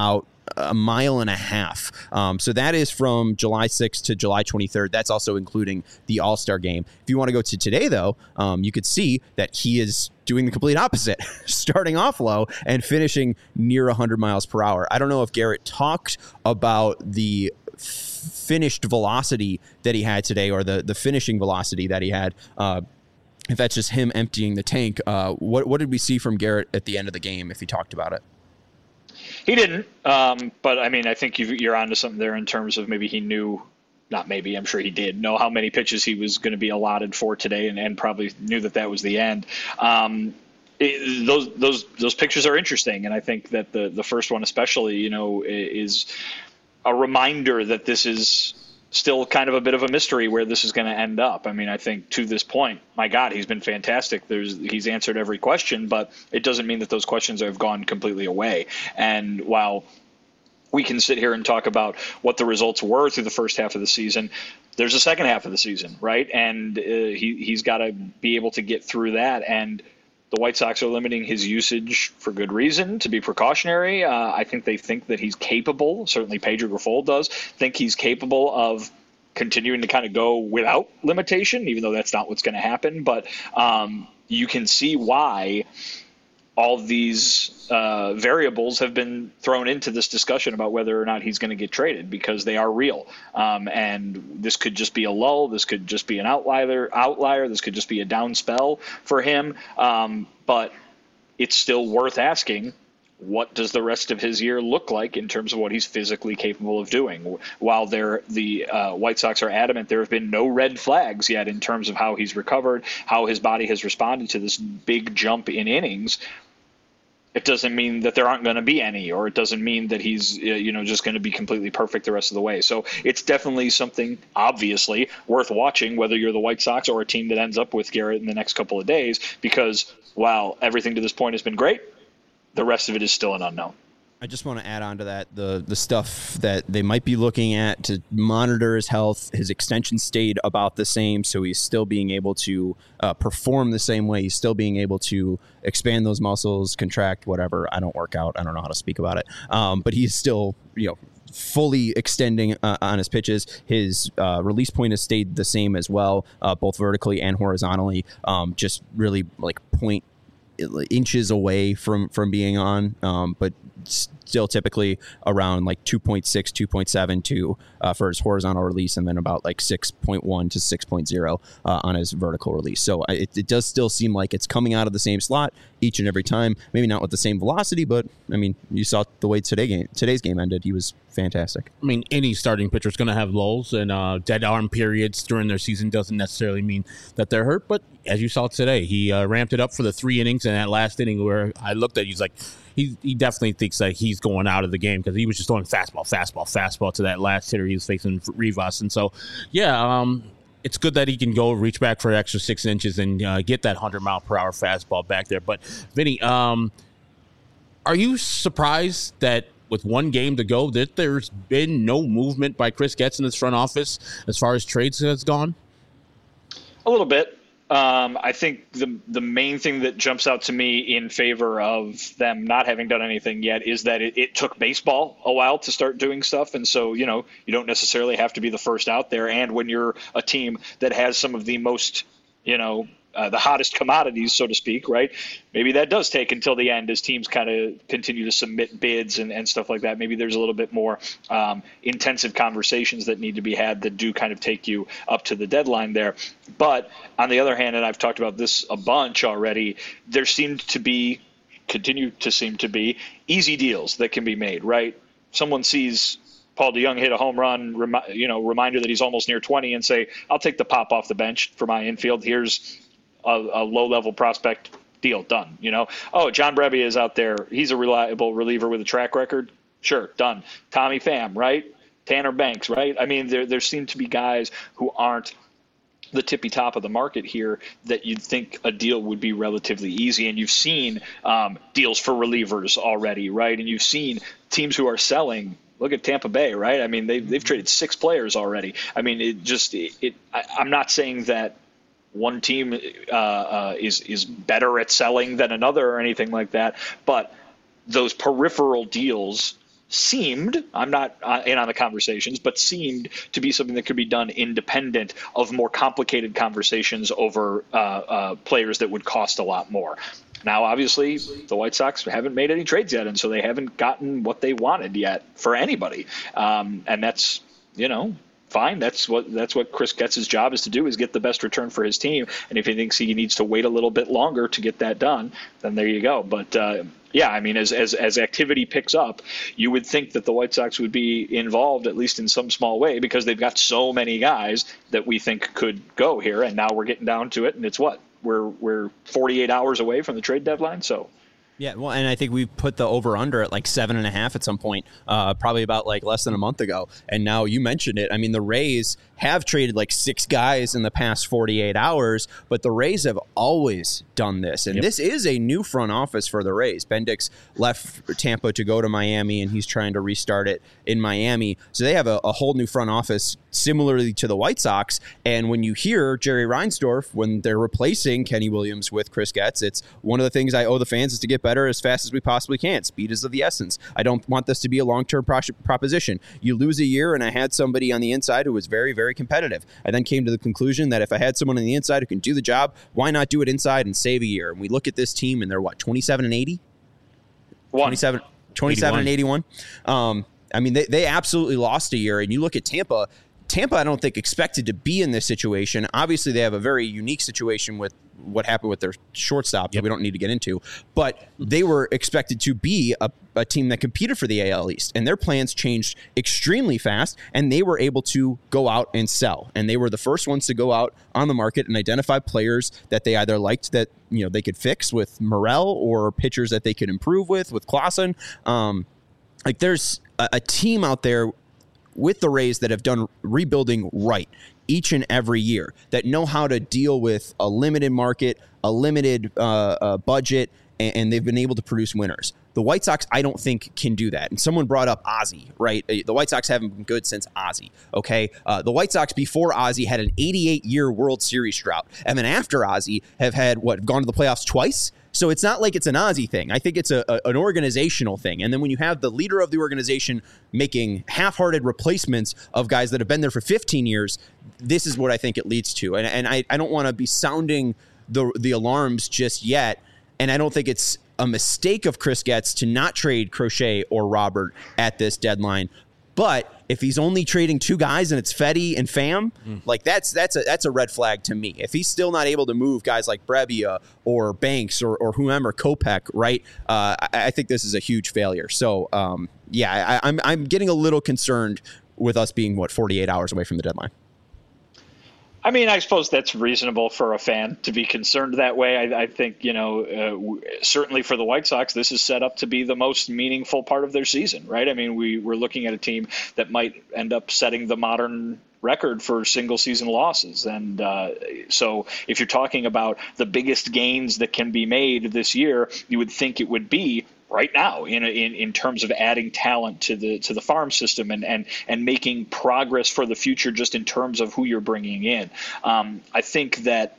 a mile and a half. So that is from July 6th to July 23rd. That's also including the All-Star game. If you want to go to today, though, you could see that he is doing the complete opposite, starting off low and finishing near 100 miles per hour. I don't know if Garrett talked about the finished velocity that he had today, or the finishing velocity that he had. If that's just him emptying the tank, what did we see from Garrett at the end of the game, if he talked about it?
He didn't, but I mean, I think you're onto something there in terms of maybe he knew, not maybe, I'm sure he did know how many pitches he was going to be allotted for today, and probably knew that was the end. Those pictures are interesting, and I think that the first one especially, is a reminder that this is still kind of a bit of a mystery where this is going to end up. I mean, I think to this point, my God, he's been fantastic. He's answered every question, but it doesn't mean that those questions have gone completely away. And while we can sit here and talk about what the results were through the first half of the season, there's a second half of the season, right? And he's got to be able to get through that. And the White Sox are limiting his usage for good reason, to be precautionary. I think they think that he's capable, certainly Pedro Grifol does, think he's capable of continuing to kind of go without limitation, even though that's not what's going to happen. But you can see why all these variables have been thrown into this discussion about whether or not he's going to get traded, because they are real. And this could just be a lull. This could just be an outlier. This could just be a down spell for him. But it's still worth asking, what does the rest of his year look like in terms of what he's physically capable of doing? While the White Sox are adamant there have been no red flags yet in terms of how he's recovered, how his body has responded to this big jump in innings, it doesn't mean that there aren't going to be any, or it doesn't mean that he's just going to be completely perfect the rest of the way. So it's definitely something, obviously, worth watching, whether you're the White Sox or a team that ends up with Garrett in the next couple of days, because while everything to this point has been great, the rest of it is still an unknown.
I just want to add on to that the stuff that they might be looking at to monitor his health. His extension stayed about the same, so he's still being able to perform the same way. He's still being able to expand those muscles, contract, whatever. I don't work out. I don't know how to speak about it. But he's still, fully extending on his pitches. His release point has stayed the same as well, both vertically and horizontally. Just really like point inches away from being on, but still typically around like 2.6, 2.7 for his horizontal release, and then about like 6.1 to 6.0 on his vertical release. So it does still seem like it's coming out of the same slot each and every time. Maybe not with the same velocity, but I mean, you saw the way today's game ended. He was fantastic.
I mean, any starting pitcher is going to have lulls, and dead arm periods during their season doesn't necessarily mean that they're hurt. But as you saw today, he ramped it up for the 3 innings, and that last inning where I looked at, he's like, he definitely thinks that he's going out of the game, because he was just throwing fastball to that last hitter he was facing, Rivas. And so, it's good that he can go reach back for an extra 6 inches and get that 100-mile-per-hour fastball back there. But, Vinny, are you surprised that with one game to go that there's been no movement by Chris Getz in his front office as far as trades has gone?
A little bit. I think the main thing that jumps out to me in favor of them not having done anything yet is that it took baseball a while to start doing stuff. And so, you don't necessarily have to be the first out there. And when you're a team that has some of the most, the hottest commodities, so to speak, right? Maybe that does take until the end as teams kind of continue to submit bids and stuff like that. Maybe there's a little bit more intensive conversations that need to be had that do kind of take you up to the deadline there. But on the other hand, and I've talked about this a bunch already, there continue to seem to be easy deals that can be made, right? Someone sees Paul DeJong hit a home run, reminder that he's almost near 20, and say, I'll take the pop off the bench for my infield. Here's a low-level prospect, deal, done. John Brebbia is out there. He's a reliable reliever with a track record. Sure, done. Tommy Pham, right? Tanner Banks, right? I mean, there seem to be guys who aren't the tippy top of the market here that you'd think a deal would be relatively easy. And you've seen deals for relievers already, right? And you've seen teams who are selling. Look at Tampa Bay, right? I mean, they've traded 6 players already. I mean, I'm not saying that one team is better at selling than another or anything like that, but those peripheral deals seemed, I'm not in on the conversations, but seemed to be something that could be done independent of more complicated conversations over players that would cost a lot more. Now, obviously, the White Sox haven't made any trades yet, and so they haven't gotten what they wanted yet for anybody. And that's, fine. That's what Chris Getz's job is to do, is get the best return for his team. And if he thinks he needs to wait a little bit longer to get that done, then there you go. But as activity picks up, you would think that the White Sox would be involved, at least in some small way, because they've got so many guys that we think could go here. And now we're getting down to it, and it's what? We're 48 hours away from the trade deadline, so.
Yeah, well, and I think we put the over-under at like 7.5 at some point, probably about like less than a month ago. And now you mentioned it. I mean, the Rays have traded like 6 guys in the past 48 hours, but the Rays have always done this. And this is a new front office for the Rays. Bendix left Tampa to go to Miami, and he's trying to restart it in Miami. So they have a whole new front office similarly to the White Sox. And when you hear Jerry Reinsdorf, when they're replacing Kenny Williams with Chris Getz, it's one of the things I owe the fans is to get better as fast as we possibly can. Speed is of the essence. I don't want this to be a long-term proposition. You lose a year, and I had somebody on the inside who was very, very competitive. I then came to the conclusion that if I had someone on the inside who can do the job, why not do it inside and save a year? And we look at this team, and they're, 27-80? 27 and 81. I mean, they absolutely lost a year, and you look at Tampa, I don't think expected to be in this situation. Obviously, they have a very unique situation with what happened with their shortstop that we don't need to get into, but they were expected to be a team that competed for the AL East, and their plans changed extremely fast, and they were able to go out and sell. And they were the first ones to go out on the market and identify players that they either liked that they could fix with Morel, or pitchers that they could improve with Clausen. There's a team out there with the Rays that have done rebuilding right each and every year, that know how to deal with a limited market, a limited budget, and they've been able to produce winners. The White Sox, I don't think, can do that. And someone brought up Ozzie, right? The White Sox haven't been good since Ozzie, okay? The White Sox before Ozzie had an 88-year World Series drought. And then after Ozzie have had, gone to the playoffs twice? So it's not like it's an Ozzie thing. I think it's an organizational thing. And then when you have the leader of the organization making half-hearted replacements of guys that have been there for 15 years, this is what I think it leads to. And I don't want to be sounding the alarms just yet. And I don't think it's a mistake of Chris Getz to not trade Crochet or Robert at this deadline. But if he's only trading 2 guys and it's Fedde and Pham, that's a red flag to me. If he's still not able to move guys like Brebbia or Banks or whomever, Kopech, right? I think this is a huge failure. So I'm getting a little concerned with us being 48 hours away from the deadline.
I mean, I suppose that's reasonable for a fan to be concerned that way. I think, certainly for the White Sox, this is set up to be the most meaningful part of their season, right? I mean, we're looking at a team that might end up setting the modern record for single season losses. And so if you're talking about the biggest gains that can be made this year, you would think it would be right now in terms of adding talent to the farm system and making progress for the future, just in terms of who you're bringing in. I think that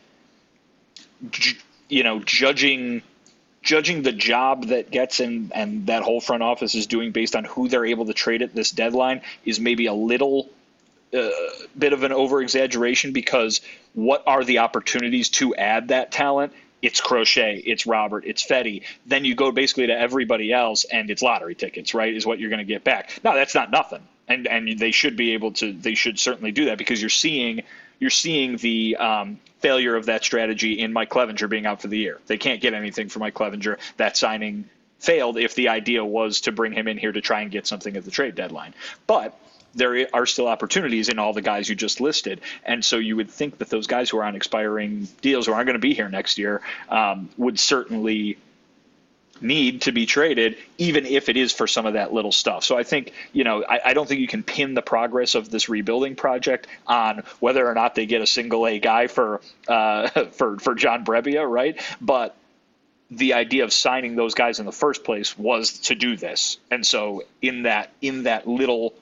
judging the job that Getz and that whole front office is doing based on who they're able to trade at this deadline is maybe a little bit of an over exaggeration, because what are the opportunities to add that talent? It's Crochet, it's Robert, it's Fedde. Then you go basically to everybody else, and it's lottery tickets, right, is what you're going to get back. Now, that's not nothing, and they should be able to. They should certainly do that, because you're seeing the failure of that strategy in Mike Clevenger being out for the year. They can't get anything for Mike Clevenger. That signing failed if the idea was to bring him in here to try and get something at the trade deadline. But there are still opportunities in all the guys you just listed. And so you would think that those guys who are on expiring deals, who aren't going to be here next year, would certainly need to be traded, even if it is for some of that little stuff. So I think, I don't think you can pin the progress of this rebuilding project on whether or not they get a single A guy for John Brebbia, right? But the idea of signing those guys in the first place was to do this. And so in that little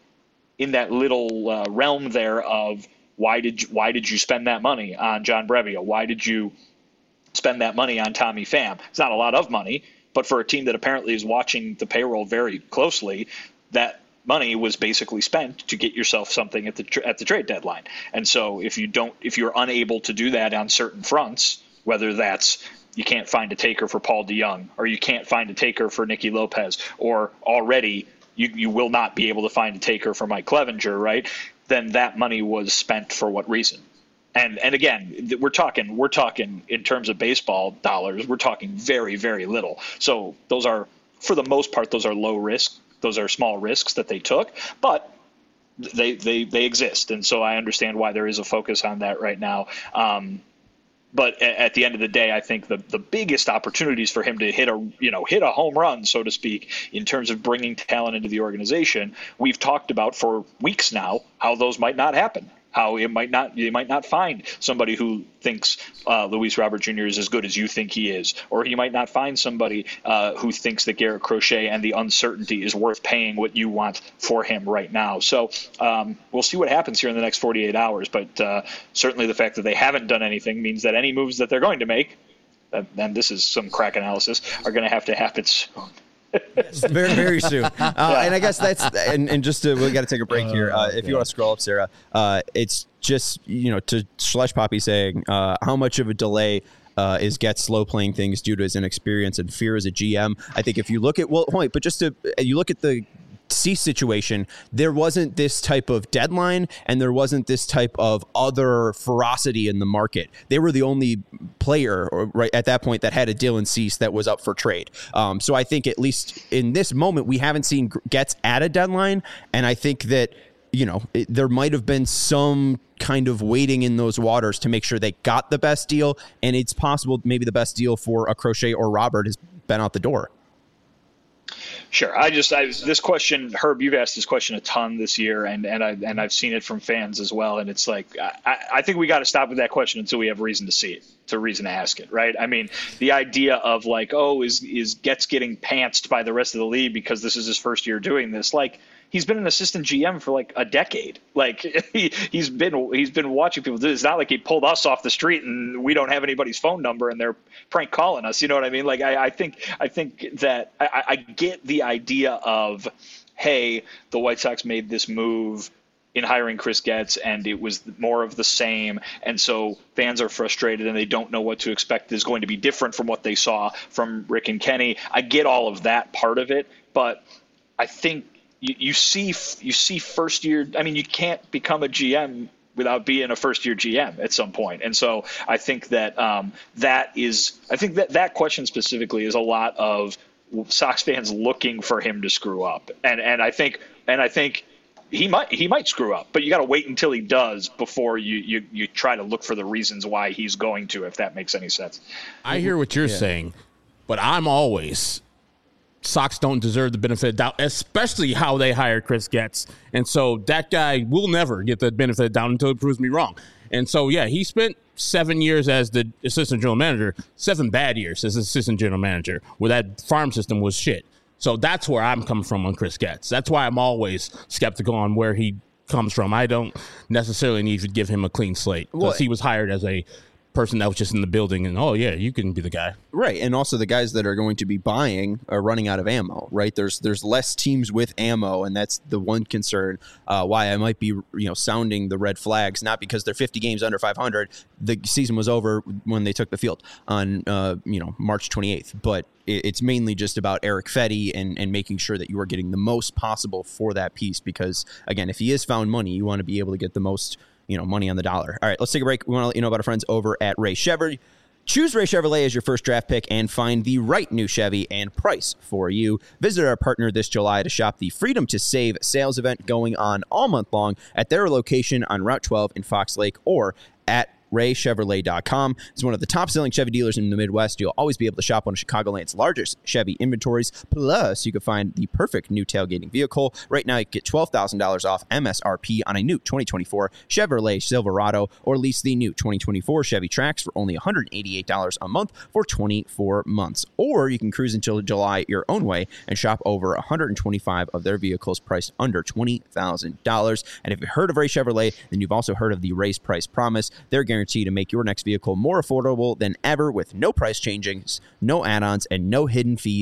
realm there of why did you spend that money on John Brebbia? Why did you spend that money on Tommy Pham? It's not a lot of money, but for a team that apparently is watching the payroll very closely, that money was basically spent to get yourself something at the trade deadline. And so if you're unable to do that on certain fronts, whether that's you can't find a taker for Paul DeJong, or you can't find a taker for Nicky Lopez, or already you will not be able to find a taker for Mike Clevenger, right? Then that money was spent for what reason? And again, we're talking in terms of baseball dollars, we're talking very, very little. So those are, for the most part, those are low risk. Those are small risks that they took, but they exist. And so I understand why there is a focus on that right now. But at the end of the day, I think the biggest opportunities for him to hit a home run, so to speak, in terms of bringing talent into the organization, we've talked about for weeks now how those might not happen. How you might not find somebody who thinks Luis Robert Jr. is as good as you think he is, or you might not find somebody who thinks that Garrett Crochet and the uncertainty is worth paying what you want for him right now. So we'll see what happens here in the next 48 hours. But certainly the fact that they haven't done anything means that any moves that they're going to make, and this is some crack analysis, are going to happen soon.
Very, very soon. And I guess that's and just we got to take a break here. If you want to scroll up, Sarah, it's just to Schleich Poppy saying how much of a delay is Getz slow playing things due to his inexperience and fear as a GM. I think if you look at you look at the Cease situation, there wasn't this type of deadline and there wasn't this type of other ferocity in the market. They were the only player right at that point that had a Dylan Cease that was up for trade. So I think at least in this moment, we haven't seen Getz at a deadline. And I think that, there might have been some kind of waiting in those waters to make sure they got the best deal. And it's possible maybe the best deal for a Crochet or Robert has been out the door.
Sure. This question, Herb, you've asked this question a ton this year, and I've seen it from fans as well. And it's like, I think we got to stop with that question until we have reason to see it, reason to ask it. Right. I mean, the idea of like, is Getz getting pantsed by the rest of the league because this is his first year doing this? Like, he's been an assistant GM for like a decade. Like he's been watching people do this. It's not like he pulled us off the street and we don't have anybody's phone number and they're prank calling us. You know what I mean? Like I think that I get the idea of, hey, the White Sox made this move in hiring Chris Getz and it was more of the same. And so fans are frustrated and they don't know what to expect is going to be different from what they saw from Rick and Kenny. I get all of that part of it, but I think you see first year. I mean, you can't become a GM without being a first year GM at some point. And so I think that that question specifically is a lot of Sox fans looking for him to screw up. And I think he might screw up, but you got to wait until he does before you try to look for the reasons why he's going to, if that makes any sense.
I hear what you're saying, but I'm always Sox don't deserve the benefit of doubt, especially how they hired Chris Getz. And so that guy will never get the benefit of doubt until it proves me wrong. And so, yeah, he spent 7 years as the assistant general manager, 7 bad years as assistant general manager, where that farm system was shit. So that's where I'm coming from on Chris Getz. That's why I'm always skeptical on where he comes from. I don't necessarily need to give him a clean slate because he was hired as a person that was just in the building and you can be the guy,
right? And also the guys that are going to be buying are running out of ammo, right? There's less teams with ammo, and that's the one concern why I might be sounding the red flags, not because they're 50 games under 500. The season was over when they took the field on March 28th, but it's mainly just about Erick Fedde and making sure that you are getting the most possible for that piece, because again, if he is found money, you want to be able to get the most money on the dollar. All right, let's take a break. We want to let you know about our friends over at Ray Chevrolet. Choose Ray Chevrolet as your first draft pick and find the right new Chevy and price for you. Visit our partner this July to shop the Freedom to Save sales event going on all month long at their location on Route 12 in Fox Lake or at RayChevrolet.com. It's one of the top-selling Chevy dealers in the Midwest. You'll always be able to shop one of Chicagoland's largest Chevy inventories. Plus, you can find the perfect new tailgating vehicle. Right now, you can get $12,000 off MSRP on a new 2024 Chevrolet Silverado, or lease the new 2024 Chevy Trax for only $188 a month for 24 months. Or you can cruise until July your own way and shop over 125 of their vehicles priced under $20,000. And if you've heard of Ray Chevrolet, then you've also heard of the Raise Price Promise. They're guaranteed to make your next vehicle more affordable than ever with no price changes, no add-ons, and no hidden fees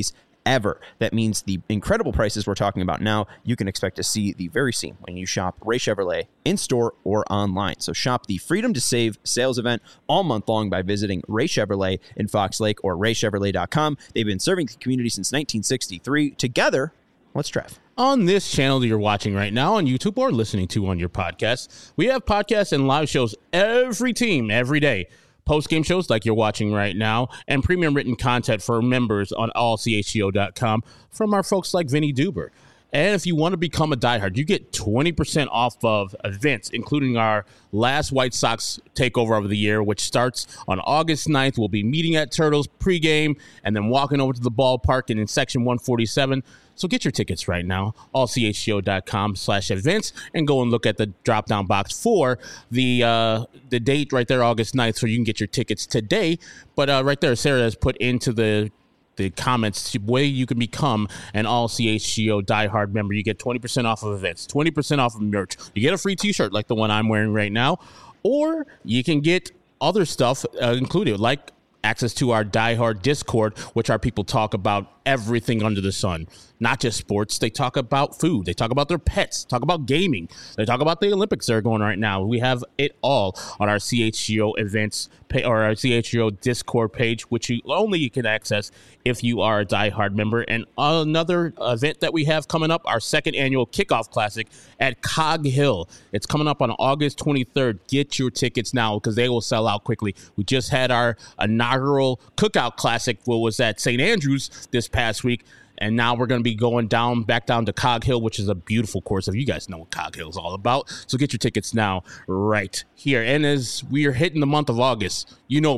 ever. That means the incredible prices we're talking about now, you can expect to see the very same when you shop Ray Chevrolet in-store or online. So shop the Freedom to Save sales event all month long by visiting Ray Chevrolet in Fox Lake or raychevrolet.com. They've been serving the community since 1963. Together, let's Trev.
On this channel that you're watching right now on YouTube or listening to on your podcast, we have podcasts and live shows every team, every day. Post-game shows like you're watching right now, and premium written content for members on allchgo.com from our folks like Vinny Duber. And if you want to become a diehard, you get 20% off of events, including our last White Sox takeover of the year, which starts on August 9th. We'll be meeting at Turtles pregame and then walking over to the ballpark and in section 147. So get your tickets right now, allchgo.com/events, and go and look at the drop-down box for the date right there, August 9th, so you can get your tickets today. But right there, Sarah has put into the comments the way you can become an all-CHGO diehard member. You get 20% off of events, 20% off of merch. You get a free t-shirt like the one I'm wearing right now, or you can get other stuff included, like access to our diehard Discord, which our people talk about everything under the sun. Not just sports. They talk about food. They talk about their pets. Talk about gaming. They talk about the Olympics that are going on right now. We have it all on our CHGO events or our CHGO Discord page, which you can access if you are a diehard member. And another event that we have coming up, our second annual Kickoff Classic at Cog Hill. It's coming up on August 23rd. Get your tickets now because they will sell out quickly. We just had our inaugural Cookout Classic, what was at St. Andrews this past week. And now we're going to be going back down to Cog Hill, which is a beautiful course. If you guys know what Cog Hill is all about. So get your tickets now right here. And as we are hitting the month of August,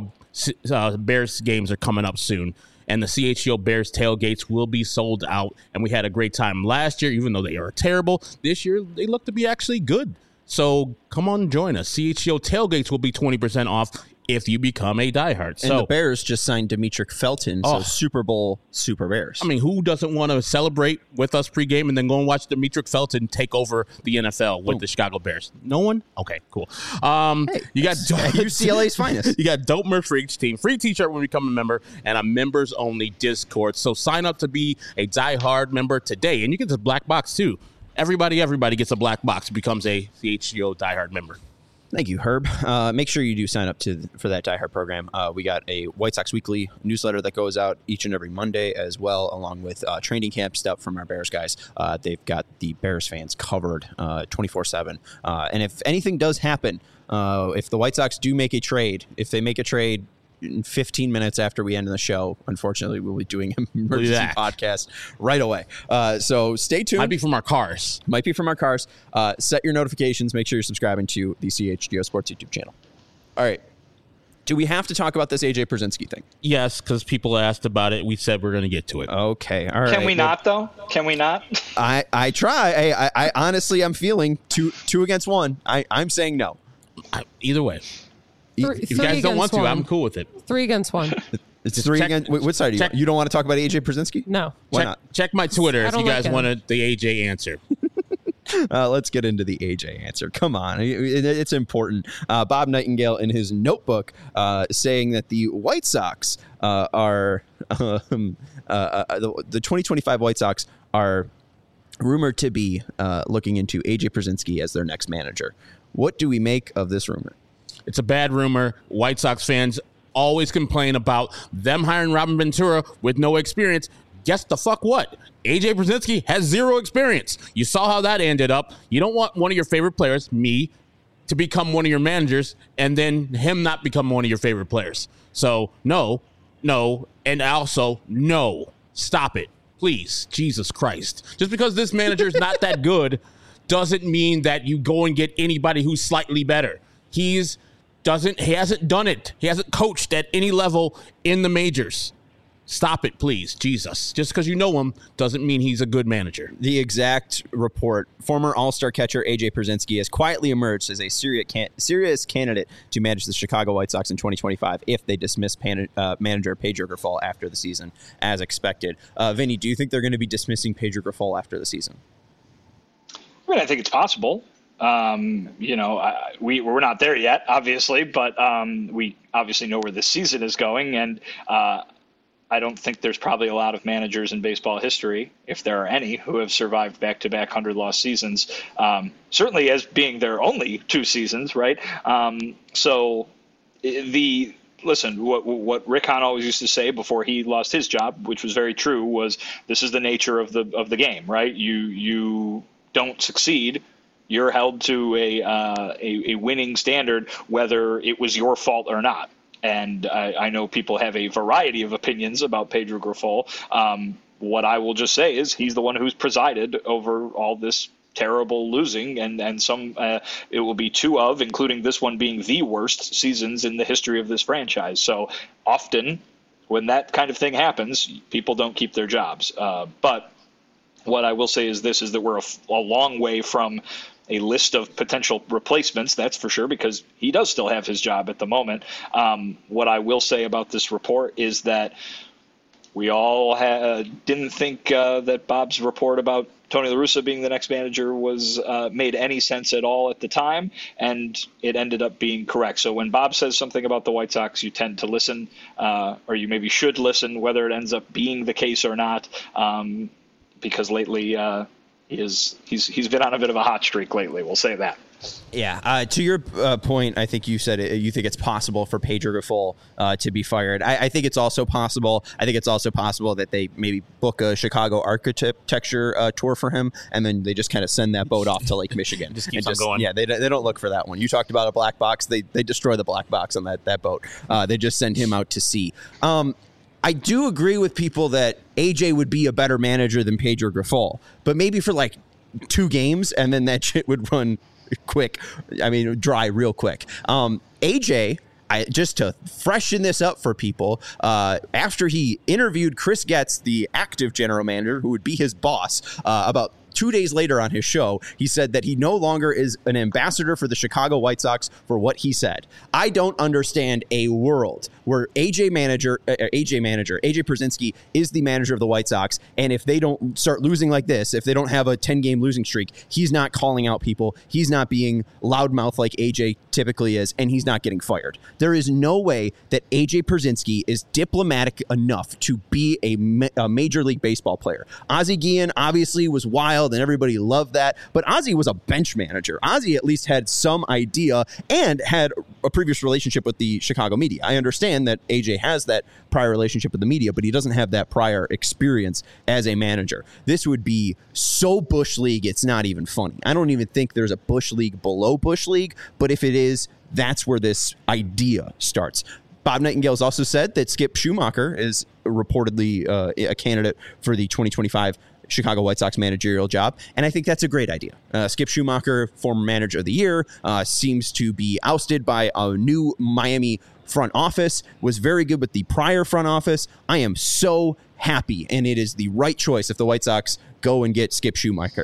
Bears games are coming up soon. And the CHGO Bears tailgates will be sold out. And we had a great time last year, even though they are terrible. This year, they look to be actually good. So come on, join us. CHGO tailgates will be 20% off if you become a diehard.
And the Bears just signed Demetric Felton, so Super Bowl Super Bears.
I mean, who doesn't want to celebrate with us pregame and then go and watch Demetric Felton take over the NFL with the Chicago Bears? No one? Okay, cool. You got
UCLA's finest.
You got dope merch for each team, free t-shirt when you become a member, and a members-only Discord. So sign up to be a diehard member today, and you get this black box too. Everybody gets a black box, becomes a CHGO diehard member.
Thank you, Herb. Make sure you do sign up for that diehard program. We got a White Sox Weekly newsletter that goes out each and every Monday as well, along with training camp stuff from our Bears guys. They've got the Bears fans covered 24/7. And if anything does happen, if the White Sox do make a trade, if they make a trade in 15 minutes after we end the show, unfortunately, we'll be doing an emergency podcast right away. So stay tuned.
Might be from our cars.
Set your notifications. Make sure you're subscribing to the CHGO Sports YouTube channel. All right. Do we have to talk about this AJ Pierzynski thing?
Yes, because people asked about it. We said we're going to get to it.
Okay. All right.
Can we not, though? Can we not?
I try. I honestly, I'm feeling two against one. I'm saying no.
Either way. If you guys don't want to, I'm cool with it.
3 against 1.
It's 3 against. What side are you? You don't want to talk about AJ Pierzynski?
No.
Why not?
Check my Twitter if you guys wanted the AJ answer.
Let's get into the AJ answer. Come on. It's important. Bob Nightingale in his notebook saying that the White Sox are the 2025 White Sox are rumored to be looking into AJ Pierzynski as their next manager. What do we make of this rumor?
It's a bad rumor. White Sox fans always complain about them hiring Robin Ventura with no experience. Guess the fuck what? AJ Pierzynski has 0 experience. You saw how that ended up. You don't want one of your favorite players, me, to become one of your managers and then him not become one of your favorite players. So no, and also no. Stop it, please. Jesus Christ. Just because this manager's not that good doesn't mean that you go and get anybody who's slightly better. He hasn't done it. He hasn't coached at any level in the majors. Stop it, please. Jesus. Just because you know him doesn't mean he's a good manager.
The exact report. Former All-Star catcher A.J. Pierzynski has quietly emerged as a serious candidate to manage the Chicago White Sox in 2025 if they dismiss manager Pedro Grifol after the season, as expected. Vinny, do you think they're going to be dismissing Pedro Grifol after the season?
I mean, I think it's possible. We're not there yet, obviously, but we obviously know where the season is going. And I don't think there's probably a lot of managers in baseball history, if there are any, who have survived back-to-back 100-loss seasons, certainly as being their only 2 seasons, right? Listen, what Rick Hahn always used to say before he lost his job, which was very true, was this is the nature of the game, right? You don't succeed, you're held to a winning standard, whether it was your fault or not. And I know people have a variety of opinions about Pedro Grifol. What I will just say is he's the one who's presided over all this terrible losing, and some it will be 2 of, including this one being the worst seasons in the history of this franchise. So often when that kind of thing happens, people don't keep their jobs. But what I will say is this, is that we're a long way from a list of potential replacements, that's for sure, because he does still have his job at the moment. What I will say about this report is that we all didn't think that Bob's report about Tony La Russa being the next manager was made any sense at all at the time, and it ended up being correct. So when Bob says something about the White Sox, you tend to listen, or you maybe should listen, whether it ends up being the case or not, because lately he's been on a bit of a hot streak lately. We'll say that.
Yeah. To your point, I think you said you think it's possible for Pedro Grifol to be fired. I think it's also possible. I think it's also possible that they maybe book a Chicago architecture tour for him, and then they just kind of send that boat off to Lake Michigan.
Just keeps on going.
Yeah, they don't look for that one. You talked about a black box. They destroy the black box on that boat. They just send him out to sea. I do agree with people that AJ would be a better manager than Pedro Grifol, but maybe for like 2 games, and then that shit would run dry real quick. AJ, just to freshen this up for people, after he interviewed Chris Getz, the active general manager, who would be his boss, about 2 days later on his show, he said that he no longer is an ambassador for the Chicago White Sox for what he said. I don't understand a world where AJ Pierzynski is the manager of the White Sox, and if they don't start losing like this, if they don't have a 10-game losing streak, he's not calling out people, he's not being loudmouth like AJ typically is, and he's not getting fired. There is no way that AJ Pierzynski is diplomatic enough to be a Major League Baseball player. Ozzie Guillen obviously was wild, and everybody loved that, but Ozzie was a bench manager. Ozzie at least had some idea and had a previous relationship with the Chicago media. I understand that AJ has that prior relationship with the media, but he doesn't have that prior experience as a manager. This would be so Bush League, it's not even funny. I don't even think there's a Bush League below Bush League, but if it is, that's where this idea starts. Bob Nightingale has also said that Skip Schumacher is reportedly a candidate for the 2025 Chicago White Sox managerial job, and I think that's a great idea. Skip Schumacher, former manager of the year, seems to be ousted by a new Miami front office, was very good with the prior front office. I am so happy, and it is the right choice if the White Sox go and get Skip Schumacher.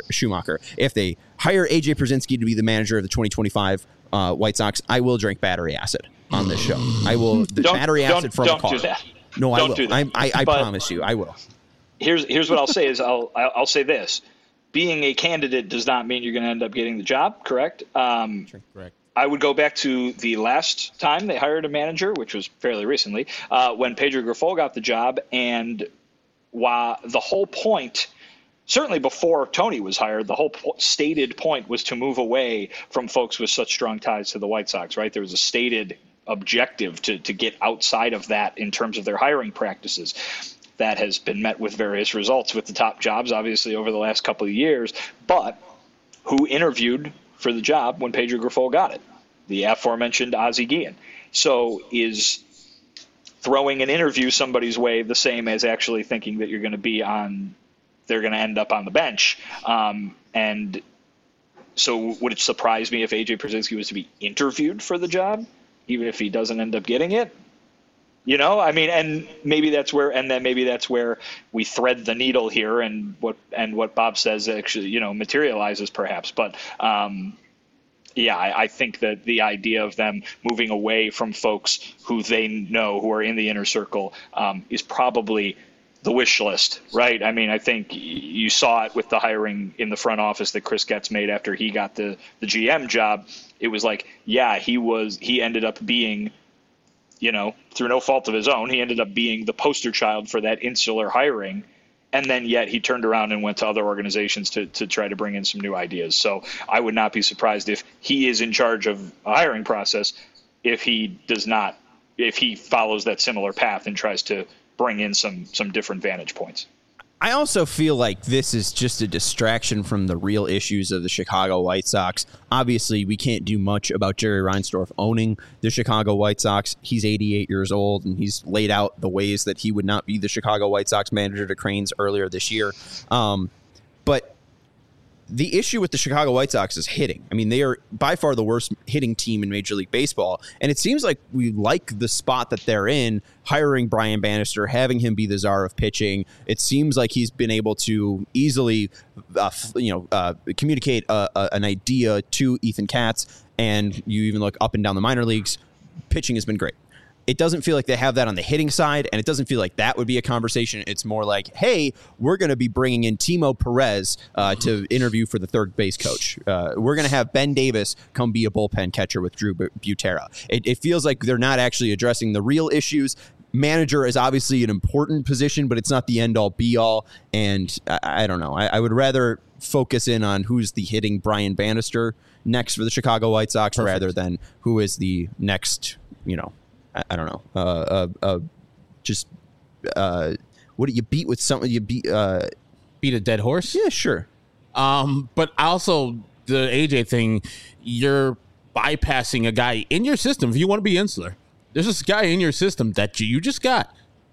If they hire AJ Pierzynski to be the manager of the 2025 White Sox, I will drink battery acid on this show. I will battery acid from a car.
Don't do that.
No, I will.
Do that.
I promise you, I will.
Here's what I'll say is I'll say this: being a candidate does not mean you're going to end up getting the job. Correct.
Correct.
I would go back to the last time they hired a manager, which was fairly recently, when Pedro Grifol got the job, and while the whole point, certainly before Tony was hired, the whole stated point was to move away from folks with such strong ties to the White Sox. Right? There was a stated objective to get outside of that in terms of their hiring practices. That has been met with various results with the top jobs, obviously, over the last couple of years. But who interviewed for the job when Pedro Grifol got it? The aforementioned Ozzie Guillen. So is throwing an interview somebody's way the same as actually thinking that they're going to end up on the bench? And so would it surprise me if AJ Pierzynski was to be interviewed for the job, even if he doesn't end up getting it? You know, I mean, and maybe that's where we thread the needle here, and what Bob says actually, materializes perhaps. But I think that the idea of them moving away from folks who they know who are in the inner circle is probably the wish list, right? I mean, I think you saw it with the hiring in the front office that Chris Getz made after he got the GM job. It was like, he ended up being through no fault of his own, he ended up being the poster child for that insular hiring. And then yet he turned around and went to other organizations to try to bring in some new ideas. So I would not be surprised if he is in charge of a hiring process, if he follows that similar path and tries to bring in some different vantage points.
I also feel like this is just a distraction from the real issues of the Chicago White Sox. Obviously, we can't do much about Jerry Reinsdorf owning the Chicago White Sox. He's 88 years old, and he's laid out the ways that he would not be the Chicago White Sox manager to Cranes earlier this year. But the issue with the Chicago White Sox is hitting. I mean, they are by far the worst hitting team in Major League Baseball. And it seems like we like the spot that they're in, hiring Brian Bannister, having him be the czar of pitching. It seems like he's been able to easily, communicate an idea to Ethan Katz. And you even look up and down the minor leagues, pitching has been great. It doesn't feel like they have that on the hitting side, and it doesn't feel like that would be a conversation. It's more like, hey, we're going to be bringing in Timo Perez to interview for the third base coach. We're going to have Ben Davis come be a bullpen catcher with Drew Butera. It feels like they're not actually addressing the real issues. Manager is obviously an important position, but it's not the end-all, be-all, and I don't know. I would rather focus in on who's the hitting Brian Bannister next for the Chicago White Sox rather than who is the next, I don't know. What do you beat with something? You beat
a dead horse?
Yeah, sure.
But also the AJ thing, you're bypassing a guy in your system. If you want to be insular, there's this guy in your system that you just got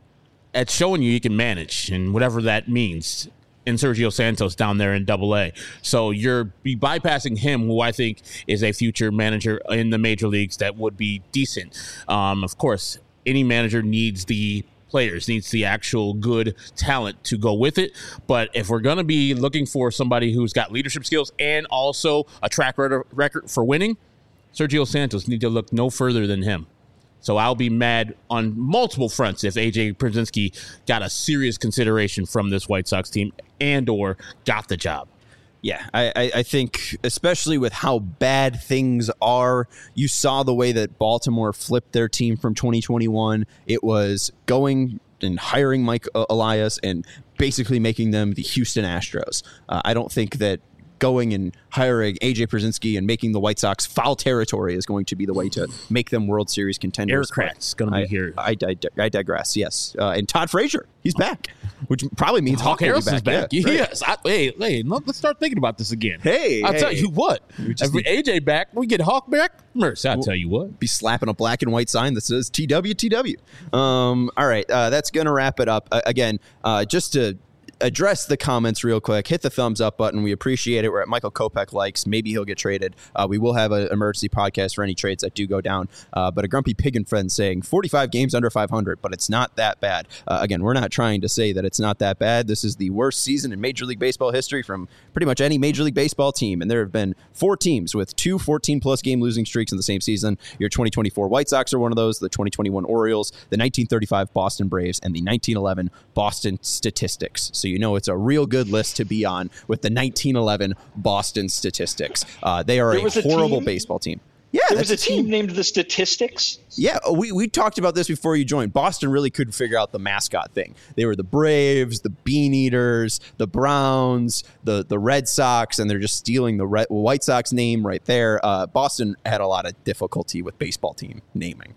at showing you can manage and whatever that means. In Sergio Santos down there in AA. So you're bypassing him, who I think is a future manager in the major leagues that would be decent. Of course, any manager needs the players, needs the actual good talent to go with it. But if we're going to be looking for somebody who's got leadership skills and also a track record for winning, Sergio Santos need to look no further than him. So I'll be mad on multiple fronts if AJ Pierzynski got a serious consideration from this White Sox team and or got the job.
Yeah, I think especially with how bad things are, you saw the way that Baltimore flipped their team from 2021. It was going and hiring Mike Elias and basically making them the Houston Astros. I don't think that going and hiring AJ Pierzynski and making the White Sox foul territory is going to be the way to make them World Series contenders.
Aircraft's going to be here.
I digress, yes. And Todd Frazier, he's back, which probably means
Hawk Harris is back.
Yeah,
yes. Hey, let's start thinking about this again.
I'll
tell you what. If we AJ back, we get Hawk back. Merce, I'll tell you what.
Be slapping a black and white sign that says TWTW. All right, that's going to wrap it up. Again, just to address the comments real quick, hit the thumbs up button. We appreciate it. We're at Michael Kopech likes. Maybe he'll get traded. We will have an emergency podcast for any trades that do go down. But a Grumpy Pig and Friend saying 45 games under 500, but it's not that bad. Again, we're not trying to say that it's not that bad. This is the worst season in Major League Baseball history from pretty much any Major League Baseball team. And there have been 4 teams with 2 14-plus game losing streaks in the same season. Your 2024 White Sox are one of those, the 2021 Orioles, the 1935 Boston Braves, and the 1911 Boston Statistics. So you know it's a real good list to be on with the 1911 Boston Statistics. They are a horrible baseball team. Yeah,
there was a team named the Statistics.
Yeah, we talked about this before you joined. Boston really couldn't figure out the mascot thing. They were the Braves, the Bean Eaters, the Browns, the Red Sox, and they're just stealing the White Sox name right there. Boston had a lot of difficulty with baseball team naming.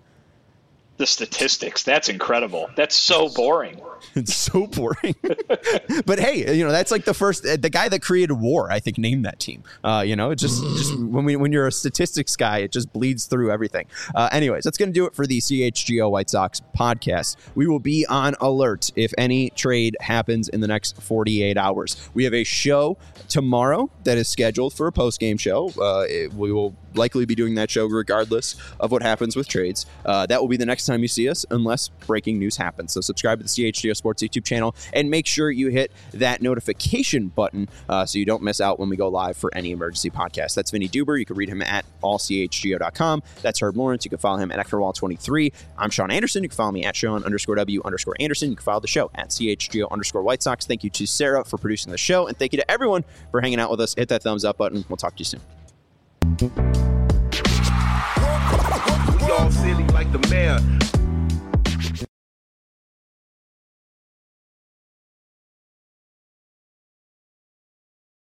The Statistics. That's incredible. That's so boring.
It's so boring. But hey, that's like the guy that created WAR, I think, named that team. It just when you're a statistics guy, it just bleeds through everything. Anyways, that's going to do it for the CHGO White Sox podcast. We will be on alert if any trade happens in the next 48 hours. We have a show tomorrow that is scheduled for a post-game show. We will likely be doing that show regardless of what happens with trades. That will be the next time you see us unless breaking news happens. So subscribe to the CHGO Sports YouTube channel and make sure you hit that notification button so you don't miss out when we go live for any emergency podcast. That's Vinny Duber. You can read him at allchgo.com. That's Herb Lawrence. You can follow him at EctorWall23. I'm Sean Anderson. You can follow me at Sean_W_Anderson. You can follow the show at CHGO_White Sox. Thank you to Sarah for producing the show, and thank you to everyone for hanging out with us. Hit that thumbs up button. We'll talk to you soon.
all silly like the mayor.